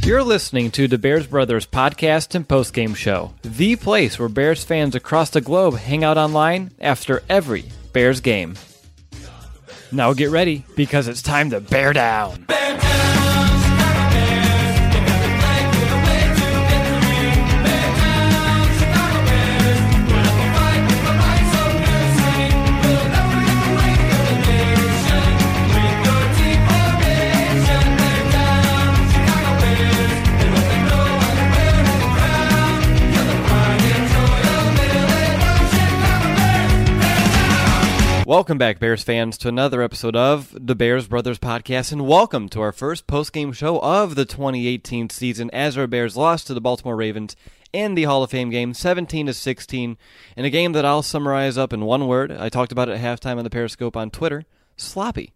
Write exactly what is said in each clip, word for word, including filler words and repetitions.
You're listening to the Bears Brothers podcast and postgame show, the place where Bears fans across the globe hang out online after every Bears game. Now get ready, because it's time to bear down. Bear down! Welcome back, Bears fans, to another episode of the Bears Brothers podcast, and welcome to our first post-game show of the twenty eighteen season as our Bears lost to the Baltimore Ravens in the Hall of Fame game, seventeen to sixteen, in a game that I'll summarize up in one word. I talked about it at halftime on the Periscope on Twitter: sloppy.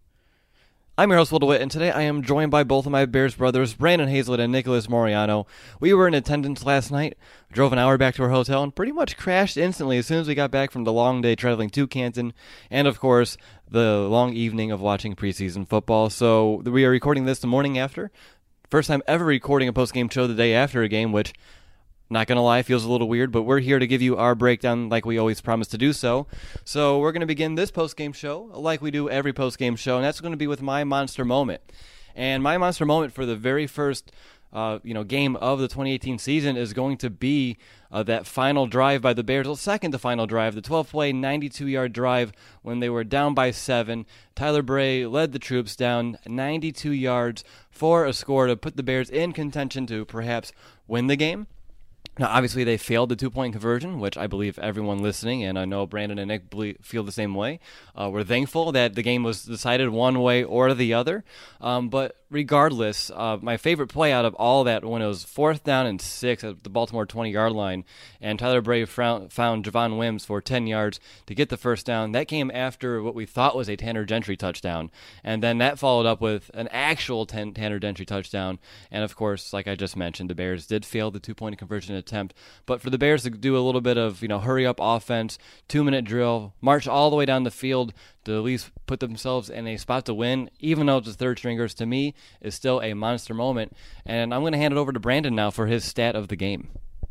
I'm your host, Will DeWitt, and today I am joined by both of my Bears brothers, Brandon Hazlett and Nicholas Moriano. We were in attendance last night, drove an hour back to our hotel, and pretty much crashed instantly as soon as we got back from the long day traveling to Canton, and of course, the long evening of watching preseason football. So we are recording this the morning after. First time ever recording a post-game show the day after a game, which, not going to lie, feels a little weird, but we're here to give you our breakdown like we always promise to do so. So we're going to begin this post-game show like we do every post-game show, and that's going to be with my monster moment. And my monster moment for the very first uh, you know, game of the twenty eighteen season is going to be uh, that final drive by the Bears, the second to final drive, the twelve-play, ninety-two-yard drive when they were down by seven. Tyler Bray led the troops down ninety-two yards for a score to put the Bears in contention to perhaps win the game. Now, obviously, they failed the two-point conversion, which I believe everyone listening, and I know Brandon and Nick feel the same way. Uh, we're thankful that the game was decided one way or the other. Um, but regardless, uh, my favorite play out of all that, when it was fourth down and six at the Baltimore twenty-yard line, and Tyler Bray found, found Javon Wims for ten yards to get the first down. That came after what we thought was a Tanner Gentry touchdown. And then that followed up with an actual ten, Tanner Gentry touchdown. And, of course, like I just mentioned, the Bears did fail the two-point conversion attempt. But for the Bears to do a little bit of, you know, hurry-up offense, two-minute drill, march all the way down the field to at least put themselves in a spot to win, even though it's the third stringers, to me, is still a monster moment. And I'm going to hand it over to Brandon now for his stat of the game.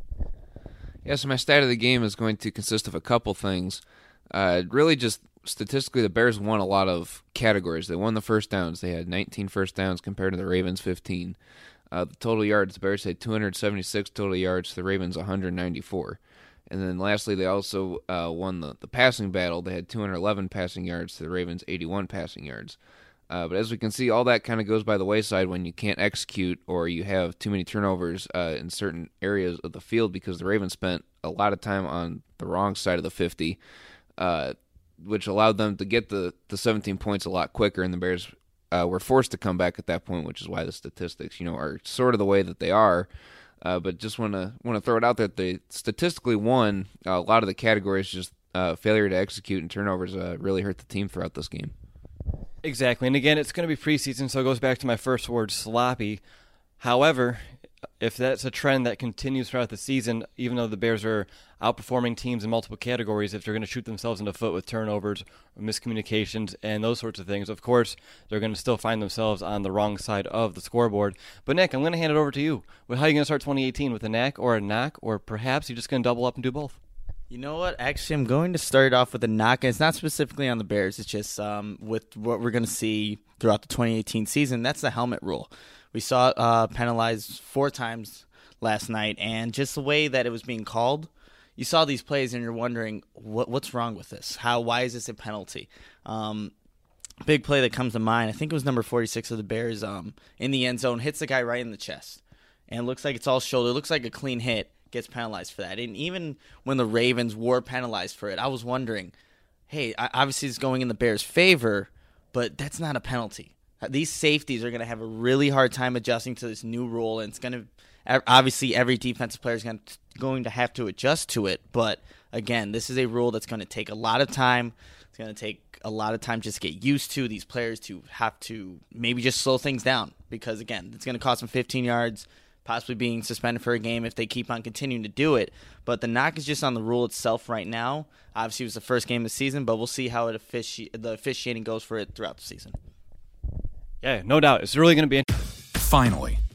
Yeah, so my stat of the game is going to consist of a couple things. Uh, really just statistically, the Bears won a lot of categories. They won the first downs. They had nineteen first downs compared to the Ravens' fifteen. Uh, the total yards, the Bears had two hundred seventy-six total yards, the Ravens one hundred ninety-four. And then lastly, they also uh, won the, the passing battle. They had two hundred eleven passing yards to the Ravens' eighty-one passing yards. Uh, but as we can see, all that kind of goes by the wayside when you can't execute or you have too many turnovers uh, in certain areas of the field, because the Ravens spent a lot of time on the wrong side of the fifty, uh, which allowed them to get the, the seventeen points a lot quicker, and the Bears uh, were forced to come back at that point, which is why the statistics, you know, are sort of the way that they are. Uh, but just want to want to throw it out there that they statistically won uh, a lot of the categories. Just uh, failure to execute and turnovers uh, really hurt the team throughout this game. Exactly, and again, it's going to be preseason, so it goes back to my first word, sloppy. However, if that's a trend that continues throughout the season, even though the Bears are outperforming teams in multiple categories, if they're going to shoot themselves in the foot with turnovers, or miscommunications, and those sorts of things, of course, they're going to still find themselves on the wrong side of the scoreboard. But Nick, I'm going to hand it over to you. How are you going to start twenty eighteen, with a knack or a knock, or perhaps you're just going to double up and do both? You know what? Actually, I'm going to start off with a knock, and it's not specifically on the Bears. It's just um, with what we're going to see throughout the twenty eighteen season. That's the helmet rule. We saw it uh, penalized four times last night, and just the way that it was being called, you saw these plays, and you're wondering, what what's wrong with this? How? Why is this a penalty? Um, big play that comes to mind, I think it was number forty-six of the Bears um, in the end zone, hits the guy right in the chest, and it looks like it's all shoulder. It looks like a clean hit. Gets penalized for that. And even when the Ravens were penalized for it, I was wondering, hey, obviously it's going in the Bears' favor, but that's not a penalty. These safeties are going to have a really hard time adjusting to this new rule, and it's going to, obviously every defensive player is going to, going to have to adjust to it. But again, this is a rule that's going to take a lot of time. It's going to take a lot of time just to get used to, these players to have to maybe just slow things down, because again, it's going to cost them fifteen yards, possibly being suspended for a game if they keep on continuing to do it. But the knock is just on the rule itself right now. Obviously, it was the first game of the season, but we'll see how it offici- the officiating goes for it throughout the season. Yeah, no doubt. It's really going to be... Finally,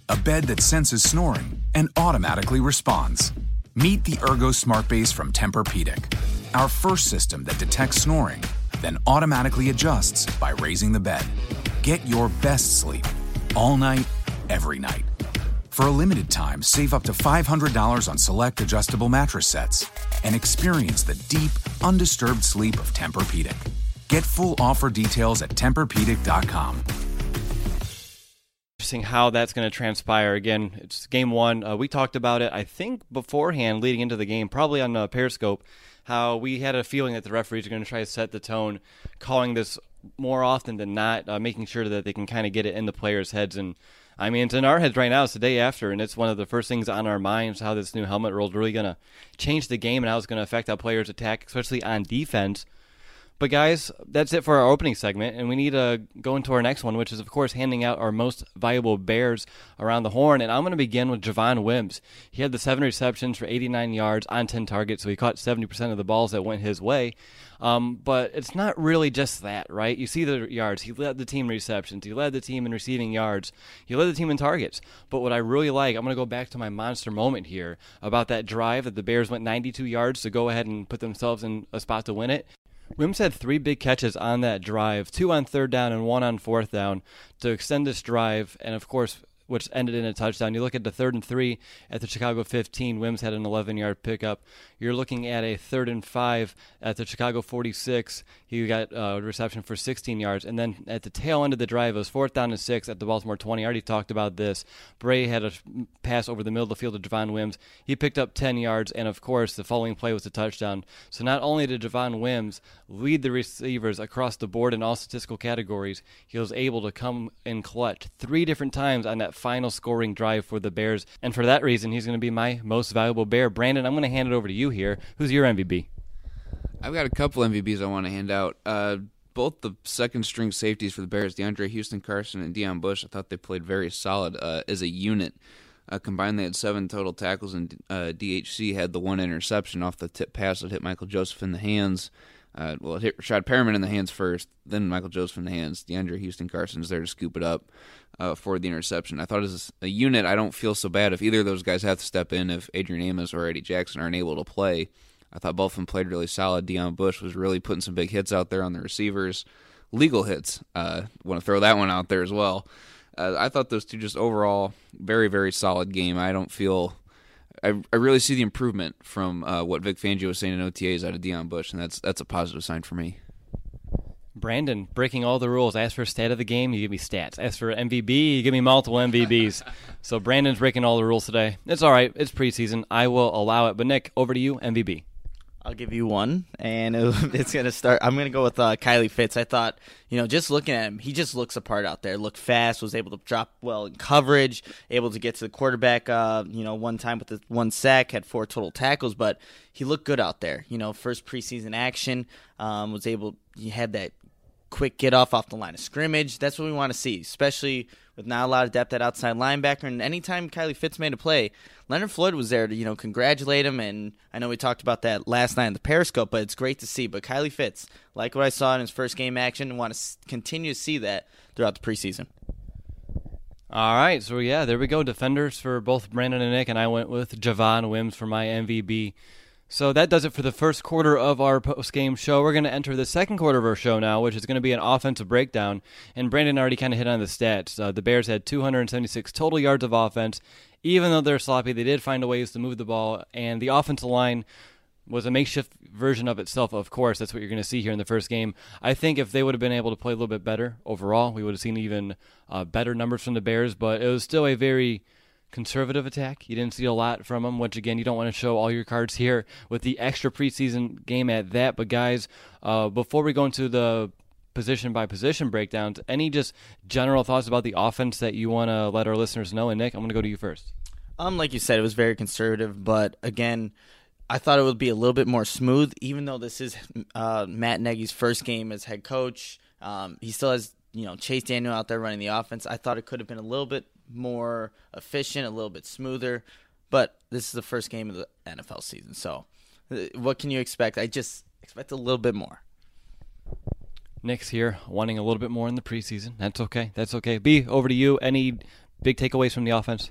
a bed that senses snoring and automatically responds. Meet the Ergo Smart Base from Tempur-Pedic, our first system that detects snoring, then automatically adjusts by raising the bed. Get your best sleep all night, every night. For a limited time, save up to five hundred dollars on select adjustable mattress sets and experience the deep, undisturbed sleep of Tempur-Pedic. Get full offer details at Tempur Pedic dot com. Interesting how that's going to transpire. Again, it's game one. Uh, we talked about it, I think, beforehand, leading into the game, probably on uh, Periscope, how we had a feeling that the referees are going to try to set the tone, calling this more often than not, uh, making sure that they can kind of get it in the players' heads. And I mean, it's in our heads right now. It's the day after, and it's one of the first things on our minds, how this new helmet rule is really going to change the game and how it's going to affect how players attack, especially on defense. But guys, that's it for our opening segment, and we need to go into our next one, which is, of course, handing out our most valuable Bears around the horn. And I'm going to begin with Javon Wims. He had the seven receptions for eighty-nine yards on ten targets, so he caught seventy percent of the balls that went his way. Um, but it's not really just that, right? You see the yards. He led the team in receptions. He led the team in receiving yards. He led the team in targets. But what I really like, I'm going to go back to my monster moment here about that drive that the Bears went ninety-two yards to go ahead and put themselves in a spot to win it. Wims had three big catches on that drive, two on third down and one on fourth down to extend this drive, and of course, which ended in a touchdown. You look at the third and three at the Chicago fifteen. Wims had an eleven-yard pickup. You're looking at a third and five at the Chicago forty-six. He got a reception for sixteen yards. And then at the tail end of the drive, it was fourth down and six at the Baltimore twenty. I already talked about this. Bray had a pass over the middle of the field to Javon Wims. He picked up ten yards, and of course, the following play was a touchdown. So not only did Javon Wims lead the receivers across the board in all statistical categories, he was able to come in clutch three different times on that final scoring drive for the Bears. And for that reason, he's going to be my most valuable Bear. Brandon, I'm going to hand it over to you here. Who's your M V P? I've got a couple M V Ps I want to hand out. Uh, both the second-string safeties for the Bears, DeAndre Houston Carson and Deion Bush, I thought they played very solid uh, as a unit. Uh, combined, they had seven total tackles, and uh, D H C had the one interception off the tip pass that hit Michael Joseph in the hands. Uh, well, it hit Rashad Perriman in the hands first, then Michael Joseph in the hands. DeAndre Houston Carson is there to scoop it up uh, for the interception. I thought as a unit, I don't feel so bad if either of those guys have to step in, if Adrian Amos or Eddie Jackson aren't able to play. I thought both of them played really solid. Deion Bush was really putting some big hits out there on the receivers. Legal hits. Uh, want to throw that one out there as well. Uh, I thought those two just overall very, very solid game. I don't feel... I, I really see the improvement from uh, what Vic Fangio was saying in O T As out of Deion Bush, and that's that's a positive sign for me. Brandon, breaking all the rules. Ask for stat of the game, you give me stats. Ask for M V B, you give me multiple M V Bs. So Brandon's breaking all the rules today. It's all right. It's preseason. I will allow it. But Nick, over to you, M V B. I'll give you one, and it's going to start. I'm going to go with uh, Kylie Fitz. I thought, you know, just looking at him, he just looks apart out there. Looked fast, was able to drop well in coverage, able to get to the quarterback, uh, you know, one time with the one sack, had four total tackles, but he looked good out there. You know, first preseason action, um, was able, he had that quick get off off the line of scrimmage. That's what we want to see, especially with not a lot of depth at outside linebacker. And anytime Kylie Fitz made a play, Leonard Floyd was there to, you know, congratulate him. And I know we talked about that last night in the Periscope, but it's great to see. But Kylie Fitz, like what I saw in his first game action, and want to continue to see that throughout the preseason. All right, so yeah, there we go. Defenders for both Brandon and Nick, and I went with Javon Wims for my M V B. So that does it for the first quarter of our post-game show. We're going to enter the second quarter of our show now, which is going to be an offensive breakdown. And Brandon already kind of hit on the stats. Uh, the Bears had two hundred seventy-six total yards of offense. Even though they're sloppy, they did find a ways to move the ball. And the offensive line was a makeshift version of itself, of course. That's what you're going to see here in the first game. I think if they would have been able to play a little bit better overall, we would have seen even uh, better numbers from the Bears. But it was still a very conservative attack. You didn't see a lot from them, which, again, you don't want to show all your cards here with the extra preseason game at that. But, guys, uh, before we go into the position-by-position breakdowns, any just general thoughts about the offense that you want to let our listeners know? And, Nick, I'm going to go to you first. Um, like you said, it was very conservative, but, again, I thought it would be a little bit more smooth, even though this is uh, Matt Nagy's first game as head coach. Um, he still has, you know, Chase Daniel out there running the offense. I thought it could have been a little bit more efficient, a little bit smoother, but this is the first game of the N F L season, so what can you expect? I just expect a little bit more. Nick's here wanting a little bit more in the preseason. That's okay. That's okay. B, over to you. Any big takeaways from the offense?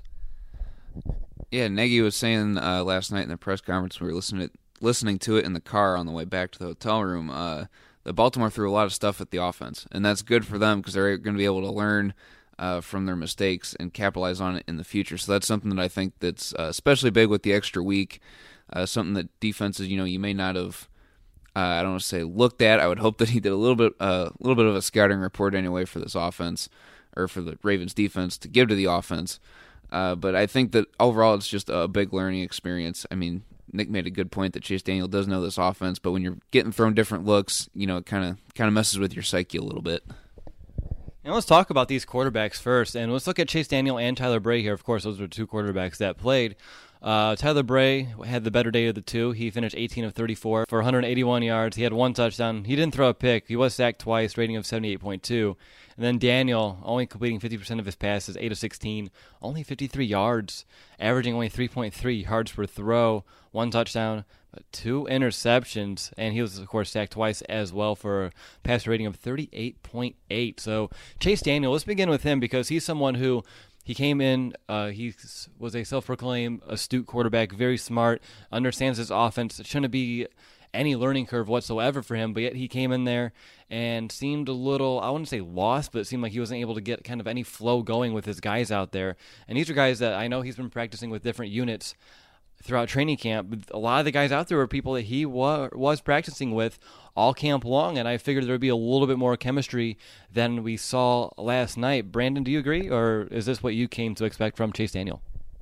Yeah, Nagy was saying uh, last night in the press conference, we were listening to, listening to it in the car on the way back to the hotel room, uh, that Baltimore threw a lot of stuff at the offense, and that's good for them because they're going to be able to learn uh, from their mistakes and capitalize on it in the future. So that's something that I think that's uh, especially big with the extra week, uh, something that defenses, you know, you may not have, uh, I don't want to say looked at. I would hope that he did a little bit, a uh, little bit of a scouting report anyway for this offense, or for the Ravens defense to give to the offense. Uh, but I think that overall it's just a big learning experience. I mean, Nick made a good point that Chase Daniel does know this offense, but when you're getting thrown different looks, you know, it kind of kind of messes with your psyche a little bit. And let's talk about these quarterbacks first, and let's look at Chase Daniel and Tyler Bray here. Of course, those were two quarterbacks that played. Uh, Tyler Bray had the better day of the two. He finished eighteen of thirty-four for one hundred eighty-one yards. He had one touchdown. He didn't throw a pick. He was sacked twice, rating of seventy-eight point two. And then Daniel, only completing fifty percent of his passes, eight of sixteen, only fifty-three yards, averaging only three point three yards per throw, one touchdown, two interceptions, and he was, of course, sacked twice as well for a passer rating of thirty-eight point eight. So Chase Daniel, let's begin with him because he's someone who he came in, uh, he was a self-proclaimed astute quarterback, very smart, understands his offense. It shouldn't be any learning curve whatsoever for him, but yet he came in there and seemed a little, I wouldn't say lost, but it seemed like he wasn't able to get kind of any flow going with his guys out there. And these are guys that I know he's been practicing with different units throughout training camp, but a lot of the guys out there were people that he wa- was practicing with all camp long, and I figured there would be a little bit more chemistry than we saw last night. Brandon, do you agree, or is this what you came to expect from Chase Daniel?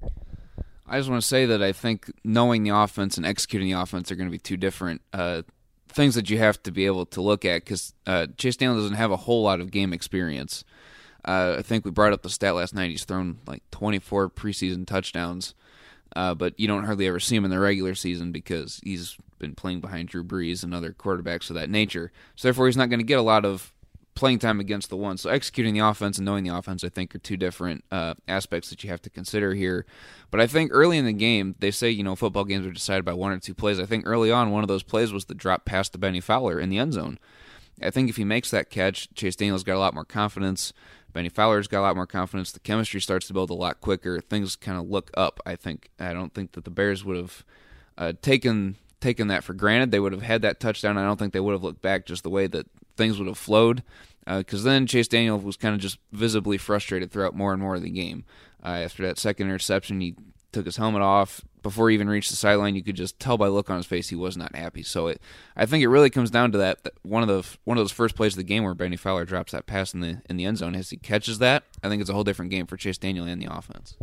I just want to say that I think knowing the offense and executing the offense are going to be two different uh, things that you have to be able to look at because uh, Chase Daniel doesn't have a whole lot of game experience. Uh, I think we brought up the stat last night. He's thrown like twenty-four preseason touchdowns, uh, but you don't hardly ever see him in the regular season because he's been playing behind Drew Brees and other quarterbacks of that nature. So therefore, he's not going to get a lot of playing time against the one. So executing the offense and knowing the offense, I think, are two different uh, aspects that you have to consider here. But I think early in the game, they say, you know, football games are decided by one or two plays. I think early on, one of those plays was the drop pass to Benny Fowler in the end zone. I think if he makes that catch, Chase Daniel's got a lot more confidence. Benny Fowler's got a lot more confidence. The chemistry starts to build a lot quicker. Things kind of look up, I think. I don't think that the Bears would have uh, taken taken that for granted. They would have had that touchdown. I don't think they would have looked back just the way that things would have flowed. Because uh, then Chase Daniel was kind of just visibly frustrated throughout more and more of the game. Uh, after that second interception, he took his helmet off. Before he even reached the sideline, you could just tell by the look on his face he was not happy. So it, I think it really comes down to that, that one of the one of those first plays of the game where Benny Fowler drops that pass in the in the end zone. As he catches that, I think it's a whole different game for Chase Daniel and the offense.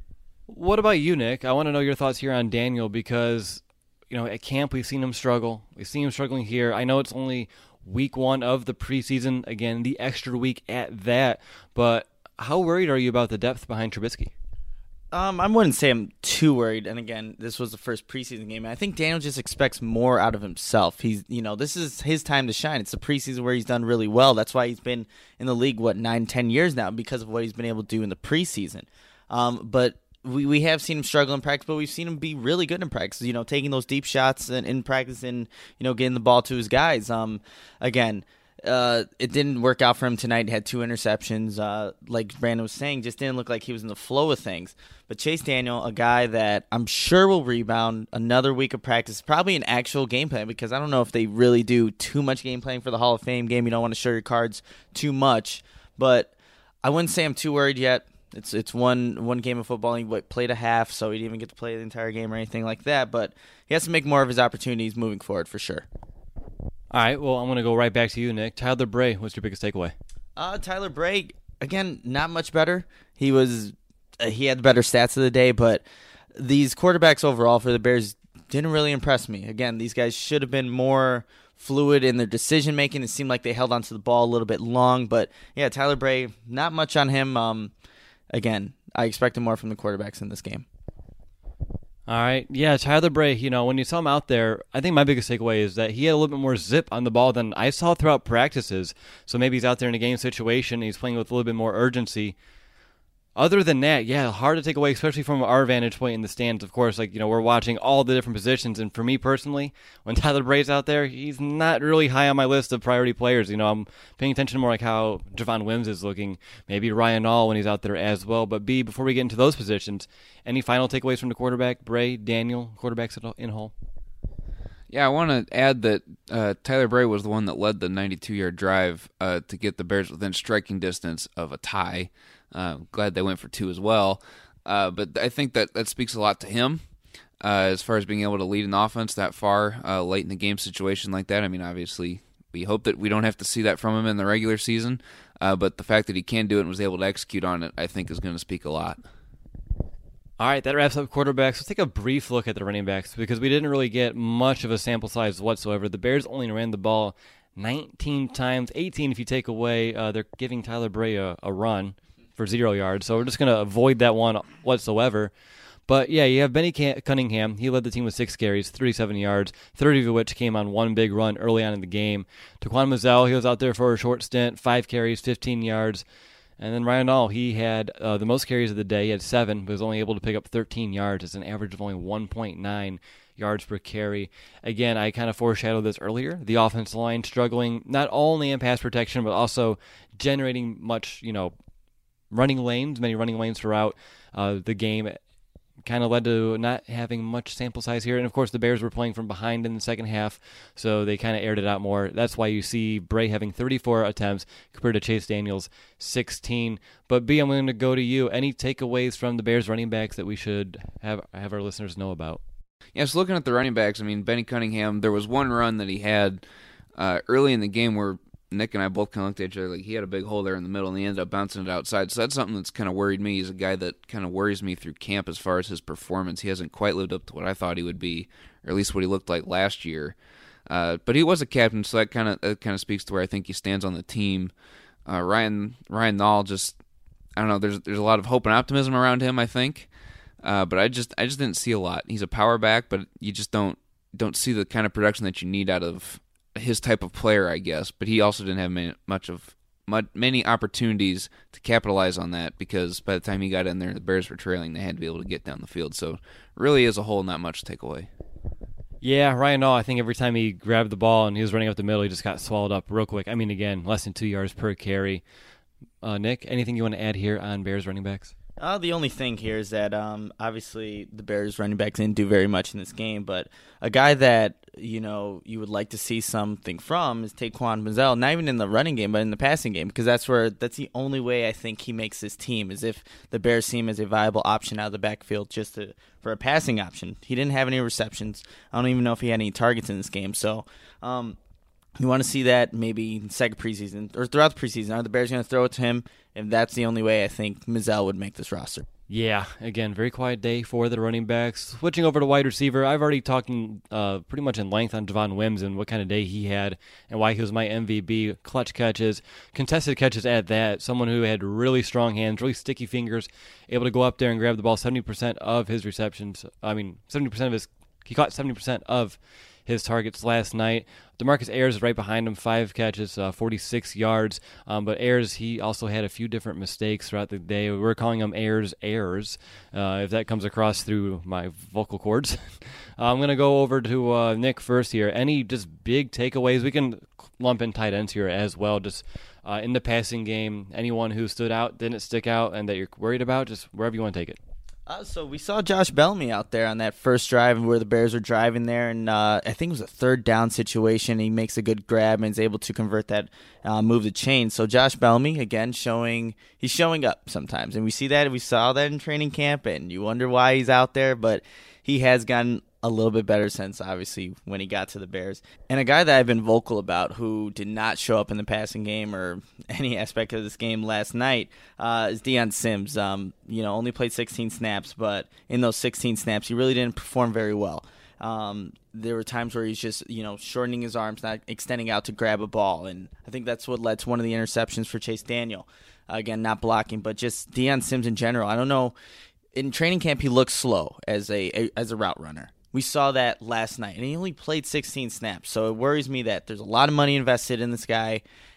What about you, Nick? I want to know your thoughts here on Daniel because, you know, at camp we've seen him struggle. We've seen him struggling here. I know it's only week one of the preseason, again, the extra week at that, but how worried are you about the depth behind Trubisky? Um, I wouldn't say I'm too worried. And again, this was the first preseason game. I think Daniel just expects more out of himself. He's, you know, this is his time to shine. It's the preseason where he's done really well. That's why he's been in the league, what, nine, ten years now because of what he's been able to do in the preseason. Um, but we, we have seen him struggle in practice, but we've seen him be really good in practice, you know, taking those deep shots in, in practice and, you know, getting the ball to his guys. Um, again, Uh, it didn't work out for him tonight. He had two interceptions. Uh, like Brandon was saying, just didn't look like he was in the flow of things. But Chase Daniel, a guy that I'm sure will rebound, another week of practice, probably an actual game plan because I don't know if they really do too much game playing for the Hall of Fame game. You don't want to show your cards too much. But I wouldn't say I'm too worried yet. It's it's one one game of football. He what, played a half, so he didn't even get to play the entire game or anything like that. But he has to make more of his opportunities moving forward for sure. All right, well, I'm going to go right back to you, Nick. Tyler Bray, what's your biggest takeaway? Uh, Tyler Bray, again, not much better. He was uh, he had the better stats of the day, but these quarterbacks overall for the Bears didn't really impress me. Again, these guys should have been more fluid in their decision-making. It seemed like they held onto the ball a little bit long, but yeah, Tyler Bray, not much on him. Um, again, I expected more from the quarterbacks in this game. All right. Yeah, Tyler Bray, you know, when you saw him out there, I think my biggest takeaway is that he had a little bit more zip on the ball than I saw throughout practices. So maybe he's out there in a game situation and he's playing with a little bit more urgency. Other than that, yeah, hard to take away, especially from our vantage point in the stands. Of course, like, you know, we're watching all the different positions, and for me personally, when Tyler Bray's out there, he's not really high on my list of priority players. You know, I'm paying attention more like how Javon Wims is looking, maybe Ryan Nall when he's out there as well. But B, before we get into those positions, any final takeaways from the quarterback, Bray, Daniel, quarterbacks in whole? Yeah, I want to add that uh, Tyler Bray was the one that led the ninety-two-yard drive uh, to get the Bears within striking distance of a tie. Uh, glad they went for two as well. Uh, but I think that that speaks a lot to him uh, as far as being able to lead an offense that far uh, late in the game situation like that. I mean, obviously, we hope that we don't have to see that from him in the regular season. Uh, but the fact that he can do it and was able to execute on it, I think, is going to speak a lot. All right, that wraps up quarterbacks. Let's take a brief look at the running backs because we didn't really get much of a sample size whatsoever. The Bears only ran the ball nineteen times, eighteen if you take away. Uh, they're giving Tyler Bray a, a run for zero yards, so we're just going to avoid that one whatsoever. But, yeah, you have Benny Cunningham. He led the team with six carries, thirty-seven yards, thirty of which came on one big run early on in the game. Taquan Mizzell, he was out there for a short stint, five carries, fifteen yards. And then Ryan Nall, he had uh, the most carries of the day. He had seven, but was only able to pick up thirteen yards. It's an average of only one point nine yards per carry. Again, I kind of foreshadowed this earlier. The offensive line struggling not only in pass protection, but also generating much, you know, running lanes, many running lanes throughout uh, the game. Kind of led to not having much sample size here. And, of course, the Bears were playing from behind in the second half, so they kind of aired it out more. That's why you see Bray having thirty-four attempts compared to Chase Daniels' sixteen. But, B, I'm going to go to you. Any takeaways from the Bears running backs that we should have have our listeners know about? Yeah, so looking at the running backs, I mean, Benny Cunningham, there was one run that he had uh, early in the game where Nick and I both kind of looked at each other like he had a big hole there in the middle, and he ended up bouncing it outside. So that's something that's kind of worried me. He's a guy that kind of worries me through camp as far as his performance. He hasn't quite lived up to what I thought he would be, or at least what he looked like last year. Uh, but he was a captain, so that kind of that kind of speaks to where I think he stands on the team. Uh, Ryan Ryan Nall, just I don't know. There's there's a lot of hope and optimism around him, I think. Uh, but I just I just didn't see a lot. He's a power back, but you just don't don't see the kind of production that you need out of his type of player, I guess, but he also didn't have many, much of much, many opportunities to capitalize on that because by the time he got in there, the Bears were trailing. They had to be able to get down the field. So really, as a whole, not much to take away. Yeah, Ryan Nall, I think every time he grabbed the ball and he was running up the middle, he just got swallowed up real quick. I mean, again, less than two yards per carry. Uh, Nick, anything you want to add here on Bears running backs? Uh, the only thing here is that um, obviously the Bears running backs didn't do very much in this game, but a guy that you know you would like to see something from is Taquan Mizzell. Not even in the running game, but in the passing game, because that's where that's the only way I think he makes his team is if the Bears see him as a viable option out of the backfield just to, for a passing option. He didn't have any receptions. I don't even know if he had any targets in this game. So. Um, You want to see that maybe in second preseason or throughout the preseason. Are the Bears going to throw it to him? If that's the only way, I think Mizzell would make this roster. Yeah, again, very quiet day for the running backs. Switching over to wide receiver, I've already talked uh, pretty much in length on Javon Wims and what kind of day he had and why he was my M V P. Clutch catches, contested catches at that. Someone who had really strong hands, really sticky fingers, able to go up there and grab the ball seventy percent of his receptions. I mean, seventy percent of his, he caught seventy percent of his targets last night. DeMarcus Ayers is right behind him, five catches, uh, forty-six yards. Um, but Ayers, he also had a few different mistakes throughout the day. We're calling him Ayers Ayers, uh, if that comes across through my vocal cords. I'm going to go over to uh, Nick first here. Any just big takeaways? We can lump in tight ends here as well. Just uh, in the passing game, anyone who stood out, didn't stick out, and that you're worried about, just wherever you want to take it. Uh, so we saw Josh Bellamy out there on that first drive where the Bears were driving there, and uh, I think it was a third down situation. He makes a good grab and is able to convert that, uh, move the chain. So Josh Bellamy, again, showing he's showing up sometimes, and we see that. We saw that in training camp, and you wonder why he's out there, but he has gotten a little bit better since, obviously, when he got to the Bears. And a guy that I've been vocal about who did not show up in the passing game or any aspect of this game last night uh, is Deion Sims. Um, you know, only played sixteen snaps, but in those sixteen snaps, he really didn't perform very well. Um, there were times where he's just, you know, shortening his arms, not extending out to grab a ball. And I think that's what led to one of the interceptions for Chase Daniel. Uh, again, not blocking, but just Deion Sims in general. I don't know. In training camp, he looks slow as a, a as a route runner. We saw that last night, and he only played sixteen snaps. So it worries me that there's a lot of money invested in this guy,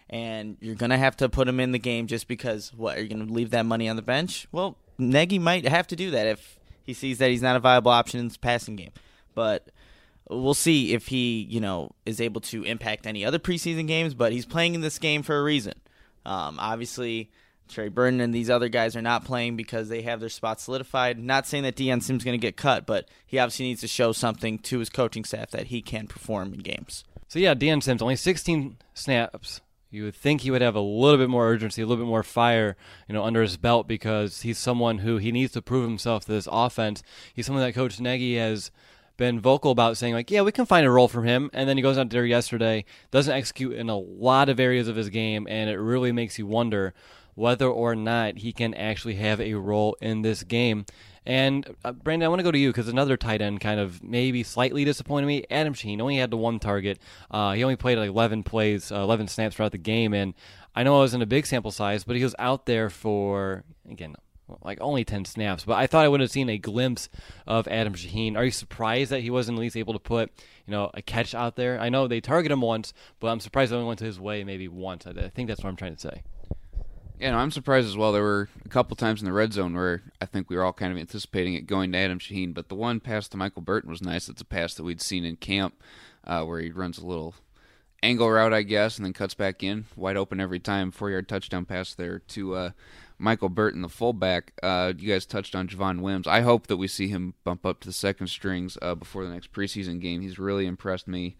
and you're going to have to put him in the game just because, what, are you going to leave that money on the bench? Well, Nagy might have to do that if he sees that he's not a viable option in this passing game. But we'll see if he, you know, is able to impact any other preseason games, but he's playing in this game for a reason. Um, obviously, Trey Burton and these other guys are not playing because they have their spots solidified. Not saying that Deion Sims is going to get cut, but he obviously needs to show something to his coaching staff that he can perform in games. So, yeah, Deion Sims, only sixteen snaps. You would think he would have a little bit more urgency, a little bit more fire, you know, under his belt because he's someone who he needs to prove himself to this offense. He's someone that Coach Nagy has been vocal about, saying, like, yeah, we can find a role for him. And then he goes out there yesterday, doesn't execute in a lot of areas of his game, and it really makes you wonder whether or not he can actually have a role in this game. And, uh, Brandon, I want to go to you because another tight end kind of maybe slightly disappointed me. Adam Shaheen only had the one target. Uh, he only played like eleven plays, uh, eleven snaps throughout the game. And I know it wasn't a big sample size, but he was out there for, again, like only ten snaps. But I thought I would have seen a glimpse of Adam Shaheen. Are you surprised that he wasn't at least able to put, you know, a catch out there? I know they targeted him once, but I'm surprised it only went to his way maybe once. I, I think that's what I'm trying to say. Yeah, no, I'm surprised as well. There were a couple times in the red zone where I think we were all kind of anticipating it going to Adam Shaheen, but the one pass to Michael Burton was nice. It's a pass that we'd seen in camp uh, where he runs a little angle route, I guess, and then cuts back in, wide open every time. Four-yard touchdown pass there to uh, Michael Burton, the fullback. Uh, you guys touched on Javon Wims. I hope that we see him bump up to the second strings uh, before the next preseason game. He's really impressed me.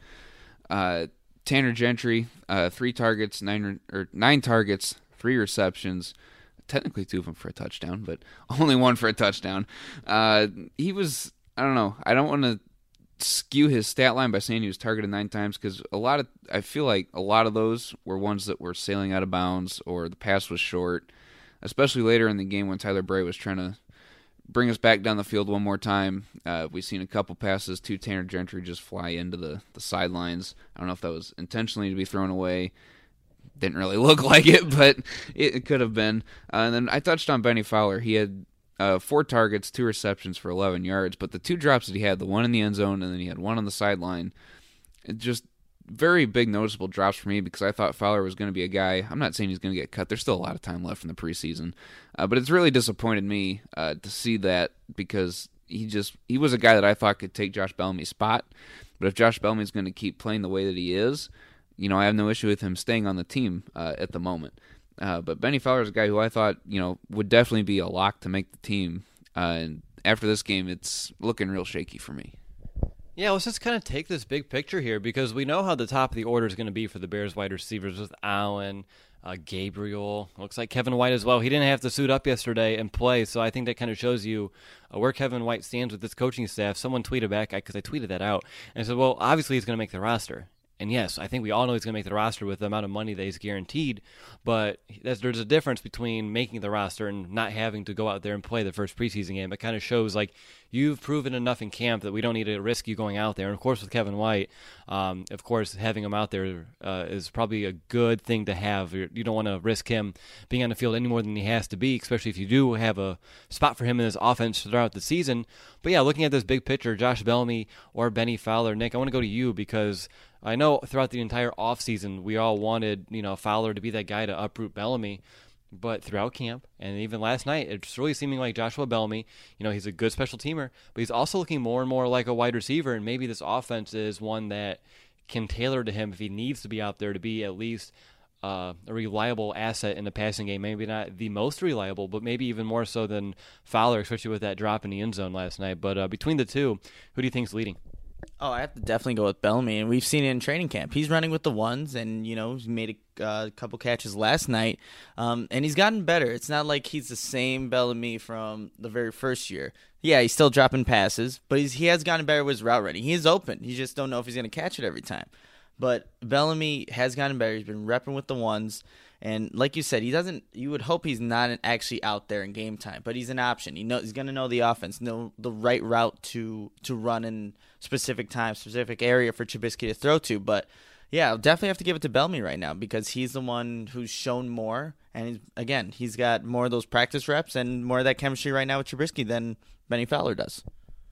Uh, Tanner Gentry, uh, three targets, nine or nine targets. Three receptions, technically two of them for a touchdown, but only one for a touchdown. Uh, he was, I don't know, I don't want to skew his stat line by saying he was targeted nine times because a lot of, I feel like a lot of those were ones that were sailing out of bounds or the pass was short, especially later in the game when Tyler Bray was trying to bring us back down the field one more time. Uh, we've seen a couple passes to Tanner Gentry just fly into the, the sidelines. I don't know if that was intentionally to be thrown away. Didn't really look like it, but it, it could have been. Uh, and then I touched on Benny Fowler. He had uh, four targets, two receptions for eleven yards, but the two drops that he had, the one in the end zone and then he had one on the sideline, it just very big noticeable drops for me because I thought Fowler was going to be a guy. I'm not saying he's going to get cut. There's still a lot of time left in the preseason, uh, but it's really disappointed me uh, to see that because he just he was a guy that I thought could take Josh Bellamy's spot. But if Josh Bellamy's going to keep playing the way that he is, you know, I have no issue with him staying on the team uh, at the moment. Uh, but Benny Fowler is a guy who I thought, you know, would definitely be a lock to make the team. Uh, and after this game, it's looking real shaky for me. Yeah, let's just kind of take this big picture here because we know how the top of the order is going to be for the Bears wide receivers with Allen, uh, Gabriel. Looks like Kevin White as well. He didn't have to suit up yesterday and play, so I think that kind of shows you uh, where Kevin White stands with this coaching staff. Someone tweeted back, because I tweeted that out, and said, well, obviously he's going to make the roster. And yes, I think we all know he's going to make the roster with the amount of money that he's guaranteed, but there's a difference between making the roster and not having to go out there and play the first preseason game. It kind of shows like you've proven enough in camp that we don't need to risk you going out there. And of course with Kevin White, um, of course having him out there uh, is probably a good thing to have. You're, you don't want to risk him being on the field any more than he has to be, especially if you do have a spot for him in this offense throughout the season. But yeah, looking at this big picture, Josh Bellamy or Benny Fowler, Nick, I want to go to you because I know throughout the entire offseason we all wanted, you know, Fowler to be that guy to uproot Bellamy, but throughout camp and even last night, it's really seeming like Joshua Bellamy, you know, he's a good special teamer, but he's also looking more and more like a wide receiver, and maybe this offense is one that can tailor to him if he needs to be out there to be at least uh, a reliable asset in the passing game. Maybe not the most reliable, but maybe even more so than Fowler, especially with that drop in the end zone last night. But uh, between the two, who do you think's leading? Oh, I have to definitely go with Bellamy, and we've seen it in training camp. He's running with the ones, and, you know, he made a uh, couple catches last night, um, and he's gotten better. It's not like he's the same Bellamy from the very first year. Yeah, he's still dropping passes, but he's, he has gotten better with his route running. He is open. You just don't know if he's going to catch it every time. But Bellamy has gotten better. He's been repping with the ones. And like you said, he doesn't. You would hope he's not actually out there in game time, but he's an option. He knows he's going to know the offense, know the right route to to run in specific time, specific area for Trubisky to throw to. But yeah, I'll definitely have to give it to Bellamy right now because he's the one who's shown more. And he's, again, he's got more of those practice reps and more of that chemistry right now with Trubisky than Benny Fowler does.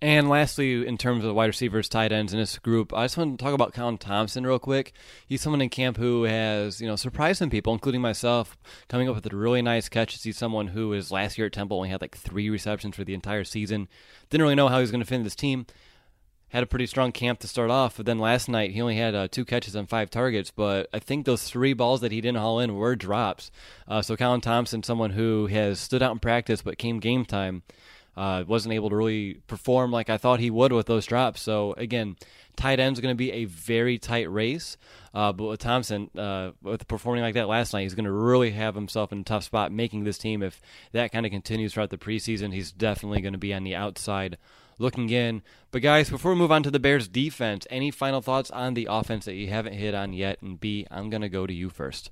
And lastly, in terms of the wide receivers, tight ends in this group, I just want to talk about Colin Thompson real quick. He's someone in camp who has, you know, surprised some people, including myself, coming up with a really nice catch. He's someone who is last year at Temple only had like three receptions for the entire season. Didn't really know how he was going to fit in this team. Had a pretty strong camp to start off, but then last night he only had uh, two catches on five targets, but I think those three balls that he didn't haul in were drops. Uh, so Colin Thompson, someone who has stood out in practice, but came game time, Uh, wasn't able to really perform like I thought he would with those drops. So, again, tight end's going to be a very tight race. Uh, but with Thompson, uh, with performing like that last night, he's going to really have himself in a tough spot making this team. If that kind of continues throughout the preseason, he's definitely going to be on the outside looking in. But, guys, before we move on to the Bears' defense, any final thoughts on the offense that you haven't hit on yet? And, B, I'm going to go to you first.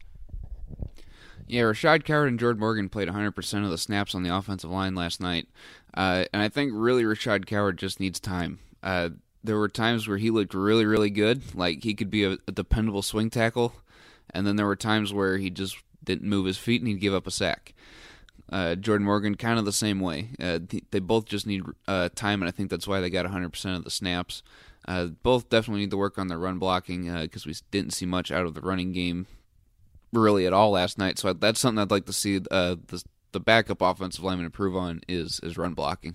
Yeah, Rashad Coward and Jordan Morgan played one hundred percent of the snaps on the offensive line last night. Uh, and I think really Rashad Coward just needs time. Uh, there were times where he looked really, really good, like he could be a, a dependable swing tackle. And then there were times where he just didn't move his feet and he'd give up a sack. Uh, Jordan Morgan, kind of the same way. Uh, they both just need uh, time, and I think that's why they got one hundred percent of the snaps. Uh, both definitely need to work on their run blocking because uh, we didn't see much out of the running game really at all last night. So that's something I'd like to see uh, the the backup offensive lineman improve on is is run blocking.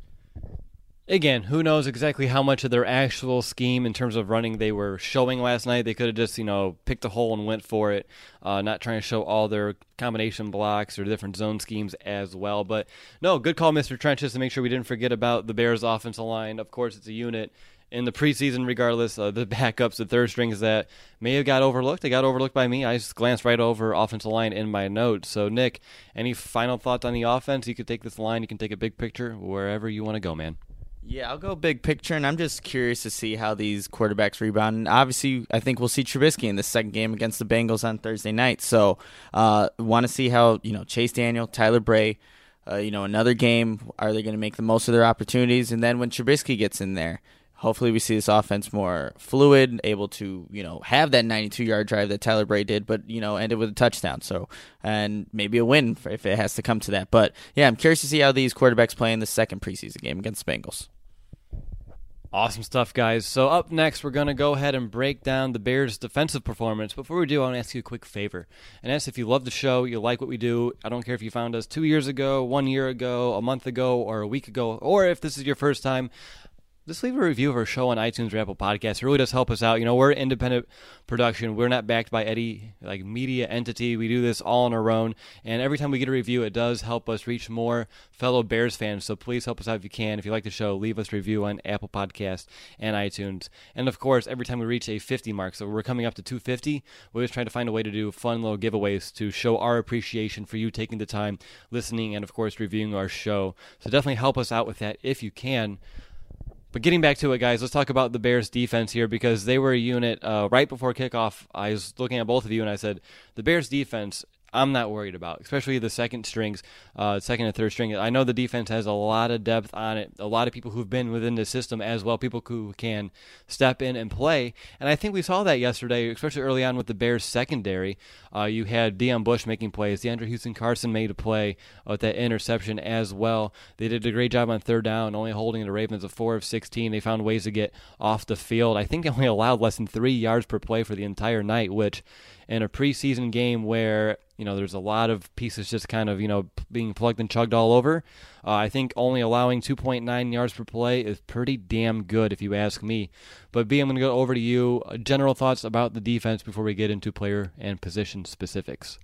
Again, who knows exactly how much of their actual scheme in terms of running they were showing last night. They could have just, you know, picked a hole and went for it, uh, not trying to show all their combination blocks or different zone schemes as well. But, no, good call, Mister Trenches, to make sure we didn't forget about the Bears' offensive line. Of course, it's a unit. In the preseason, regardless, uh, the backups, the third strings that may have got overlooked, they got overlooked by me. I just glanced right over offensive line in my notes. So, Nick, any final thoughts on the offense? You could take this line, you can take a big picture, wherever you want to go, man. Yeah, I'll go big picture, and I'm just curious to see how these quarterbacks rebound. And obviously, I think we'll see Trubisky in the second game against the Bengals on Thursday night. So, uh, want to see how, you know, Chase Daniel, Tyler Bray, uh, you know, another game, are they going to make the most of their opportunities? And then when Trubisky gets in there, hopefully we see this offense more fluid, able to, you know, have that ninety-two-yard drive that Tyler Bray did, but, you know, ended with a touchdown. So, and maybe a win if it has to come to that. But, yeah, I'm curious to see how these quarterbacks play in the second preseason game against the Bengals. Awesome stuff, guys. So up next, we're going to go ahead and break down the Bears' defensive performance. Before we do, I want to ask you a quick favor. And that's if you love the show, you like what we do, I don't care if you found us two years ago, one year ago, a month ago, or a week ago, or if this is your first time, just leave a review of our show on iTunes or Apple Podcasts. It really does help us out. You know, we're an independent production. We're not backed by any like media entity. We do this all on our own. And every time we get a review, it does help us reach more fellow Bears fans. So please help us out if you can. If you like the show, leave us a review on Apple Podcasts and iTunes. And of course, every time we reach a fifty mark, so we're coming up to two fifty, we're just trying to find a way to do fun little giveaways to show our appreciation for you taking the time, listening, and of course, reviewing our show. So definitely help us out with that if you can. But getting back to it, guys, let's talk about the Bears' defense here because they were a unit uh, right before kickoff. I was looking at both of you, and I said, the Bears' defense, I'm not worried about, especially the second strings, uh, second and third string. I know the defense has a lot of depth on it, a lot of people who've been within the system as well, people who can step in and play. And I think we saw that yesterday, especially early on with the Bears' secondary. Uh, you had Deion Bush making plays. DeAndre Houston-Carson made a play with that interception as well. They did a great job on third down, only holding the Ravens a four of sixteen. They found ways to get off the field. I think they only allowed less than three yards per play for the entire night, which in a preseason game where, you know, there's a lot of pieces just kind of, you know, being plugged and chugged all over, uh, I think only allowing two point nine yards per play is pretty damn good if you ask me. But B, I'm going to go over to you. Uh, general thoughts about the defense before we get into player and position specifics.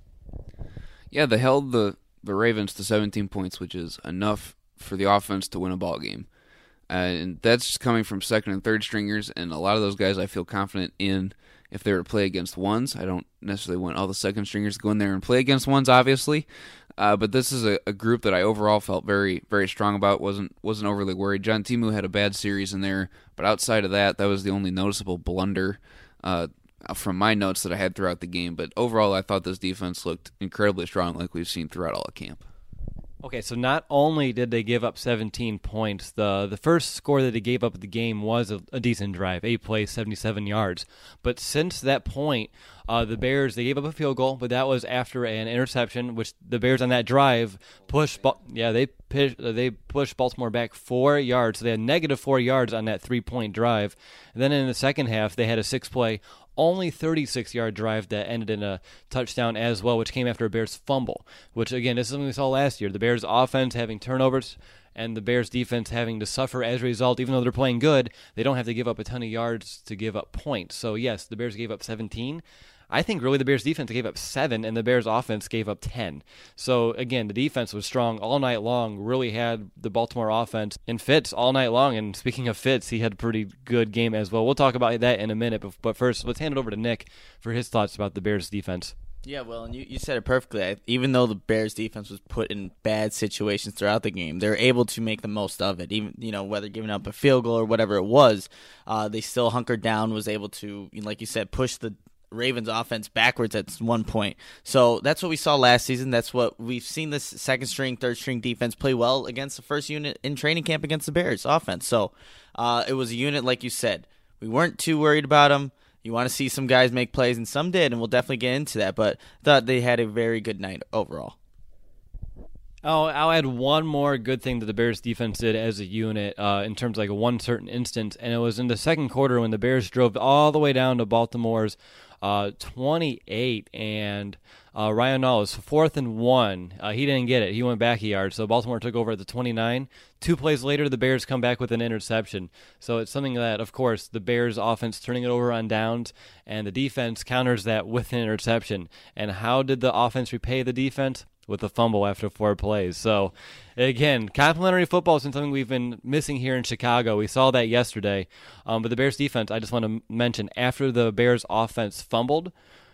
Yeah, they held the, the Ravens to seventeen points, which is enough for the offense to win a ball game. Uh, and that's coming from second and third stringers, and a lot of those guys I feel confident in if they were to play against ones. I don't necessarily want all the second stringers to go in there and play against ones, obviously. Uh, but this is a, a group that I overall felt very, very strong about. wasn't wasn't overly worried. John Timu had a bad series in there, but outside of that, that was the only noticeable blunder uh, from my notes that I had throughout the game. But overall, I thought this defense looked incredibly strong, like we've seen throughout all of camp. Okay, so not only did they give up seventeen points, the the first score that they gave up at the game was a, a decent drive, eight plays, seventy-seven yards. But since that point, uh, the Bears, they gave up a field goal, but that was after an interception, which the Bears on that drive pushed, yeah, they pushed, they pushed Baltimore back four yards. So they had negative four yards on that three-point drive. And then in the second half, they had a six-play only thirty-six-yard drive that ended in a touchdown as well, which came after a Bears fumble, which, again, this is something we saw last year. The Bears offense having turnovers and the Bears defense having to suffer as a result. Even though they're playing good, they don't have to give up a ton of yards to give up points. So, yes, the Bears gave up seventeen. I think really the Bears defense gave up seven, and the Bears offense gave up ten. So, again, the defense was strong all night long, really had the Baltimore offense in fits all night long. And speaking of fits, he had a pretty good game as well. We'll talk about that in a minute, but first, let's hand it over to Nick for his thoughts about the Bears defense. Yeah, well, and you, you said it perfectly. I, even though the Bears defense was put in bad situations throughout the game, they were able to make the most of it. Even, you know, whether giving up a field goal or whatever it was, uh, they still hunkered down, was able to, like you said, push the Ravens offense backwards at one point. So that's what we saw last season. That's what we've seen this second string, third string defense play well against the first unit in training camp against the Bears offense. So uh, it was a unit, like you said. We weren't too worried about them. You want to see some guys make plays, and some did, and we'll definitely get into that. But I thought they had a very good night overall. Oh, I'll add one more good thing that the Bears defense did as a unit uh, in terms of like one certain instance, and it was in the second quarter when the Bears drove all the way down to Baltimore's uh, twenty-eight, and uh, Ryan Nall, fourth and one. Uh, he didn't get it. He went back a yard, so Baltimore took over at the twenty-nine. Two plays later, the Bears come back with an interception. So it's something that, of course, the Bears offense turning it over on downs, and the defense counters that with an interception. And how did the offense repay the defense? With a fumble after four plays. So, again, complimentary football is something we've been missing here in Chicago. We saw that yesterday. Um, but the Bears defense, I just want to mention, after the Bears offense fumbled,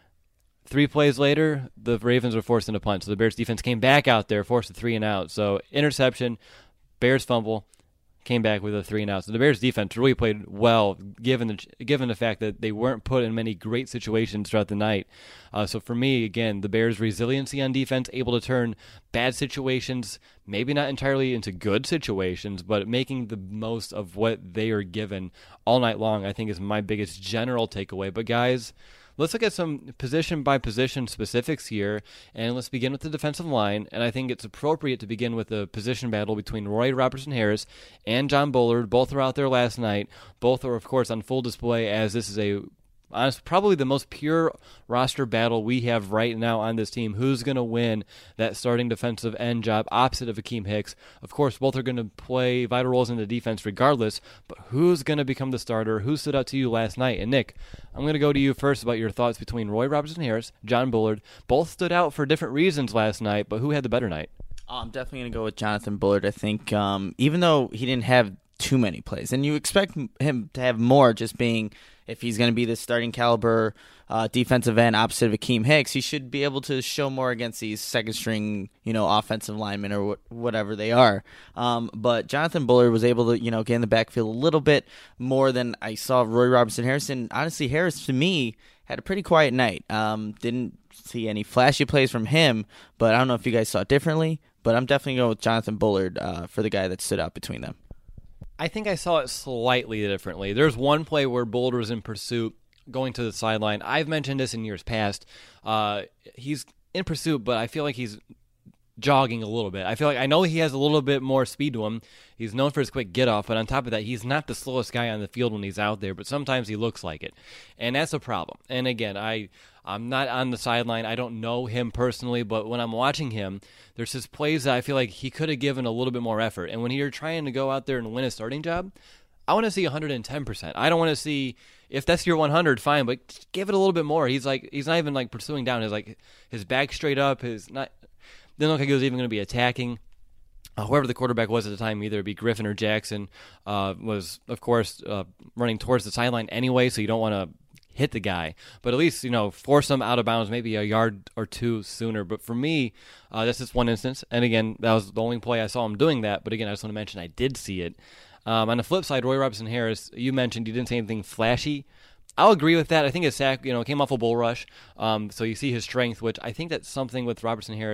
three plays later, the Ravens were forced into punt. So the Bears defense came back out there, forced a three and out. So, interception, Bears fumble, came back with a three and out. So the Bears defense really played well, given the given the fact that they weren't put in many great situations throughout the night. Uh, so for me, again, the Bears' resiliency on defense, able to turn bad situations, maybe not entirely into good situations, but making the most of what they are given all night long, I think is my biggest general takeaway. But guys, let's look at some position-by-position specifics here, and let's begin with the defensive line. And I think it's appropriate to begin with the position battle between Roy Robertson-Harris and John Bullard. Both were out there last night. Both are, of course, on full display, as this is a honest, probably the most pure roster battle we have right now on this team. Who's going to win that starting defensive end job opposite of Akeem Hicks? Of course, both are going to play vital roles in the defense regardless, but who's going to become the starter? Who stood out to you last night? And Nick, I'm going to go to you first about your thoughts between Roy Robertson-Harris, John Bullard. Both stood out for different reasons last night, but who had the better night? Oh, I'm definitely going to go with Jonathan Bullard. I think um, even though he didn't have too many plays, and you expect him to have more, just being if he's going to be the starting caliber uh, defensive end opposite of Akeem Hicks, he should be able to show more against these second string, you know, offensive linemen or wh- whatever they are. Um, but Jonathan Bullard was able to, you know, get in the backfield a little bit more than I saw Roy Robertson-Harris. And honestly, Harris to me had a pretty quiet night. Um, didn't see any flashy plays from him, but I don't know if you guys saw it differently. But I'm definitely going with Jonathan Bullard uh, for the guy that stood out between them. I think I saw it slightly differently. There's one play where Bullard was in pursuit, going to the sideline. I've mentioned this in years past. Uh, he's in pursuit, but I feel like he's jogging a little bit. I feel like I know he has a little bit more speed to him. He's known for his quick get-off, but on top of that, he's not the slowest guy on the field when he's out there, but sometimes he looks like it, and that's a problem. And again, I, I'm not on the sideline. I don't know him personally, but when I'm watching him, there's his plays that I feel like he could have given a little bit more effort. And when you're trying to go out there and win a starting job, I want to see one hundred ten percent. I don't want to see, if that's your one hundred, fine, but just give it a little bit more. He's like, he's not even like pursuing down. His like his back straight up. His not didn't look like he was even going to be attacking. Uh, whoever the quarterback was at the time, either it be Griffin or Jackson, uh, was of course uh, running towards the sideline anyway. So you don't want to hit the guy, but at least, you know, force him out of bounds, maybe a yard or two sooner. But for me, uh, that's just one instance. And again, that was the only play I saw him doing that. But again, I just want to mention I did see it. Um, on the flip side, Roy Robertson-Harris, you mentioned he didn't say anything flashy. I'll agree with that. I think his sack, you know, came off a bull rush, um, so you see his strength, which I think that's something with Robertson-Harris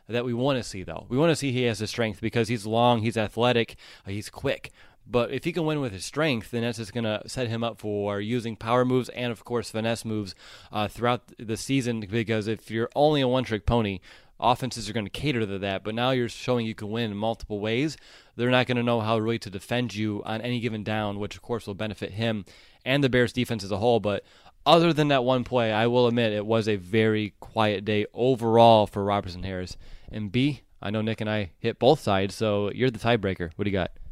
that we want to see, though. We want to see he has the strength because he's long, he's athletic, uh, he's quick. But if he can win with his strength, then that's just going to set him up for using power moves and, of course, finesse moves uh, throughout the season, because if you're only a one-trick pony, offenses are going to cater to that. But now you're showing you can win in multiple ways. They're not going to know how really to defend you on any given down, which, of course, will benefit him and the Bears' defense as a whole. But other than that one play, I will admit it was a very quiet day overall for Robertson Harris. And B, I know Nick and I hit both sides, so you're the tiebreaker. What do you got?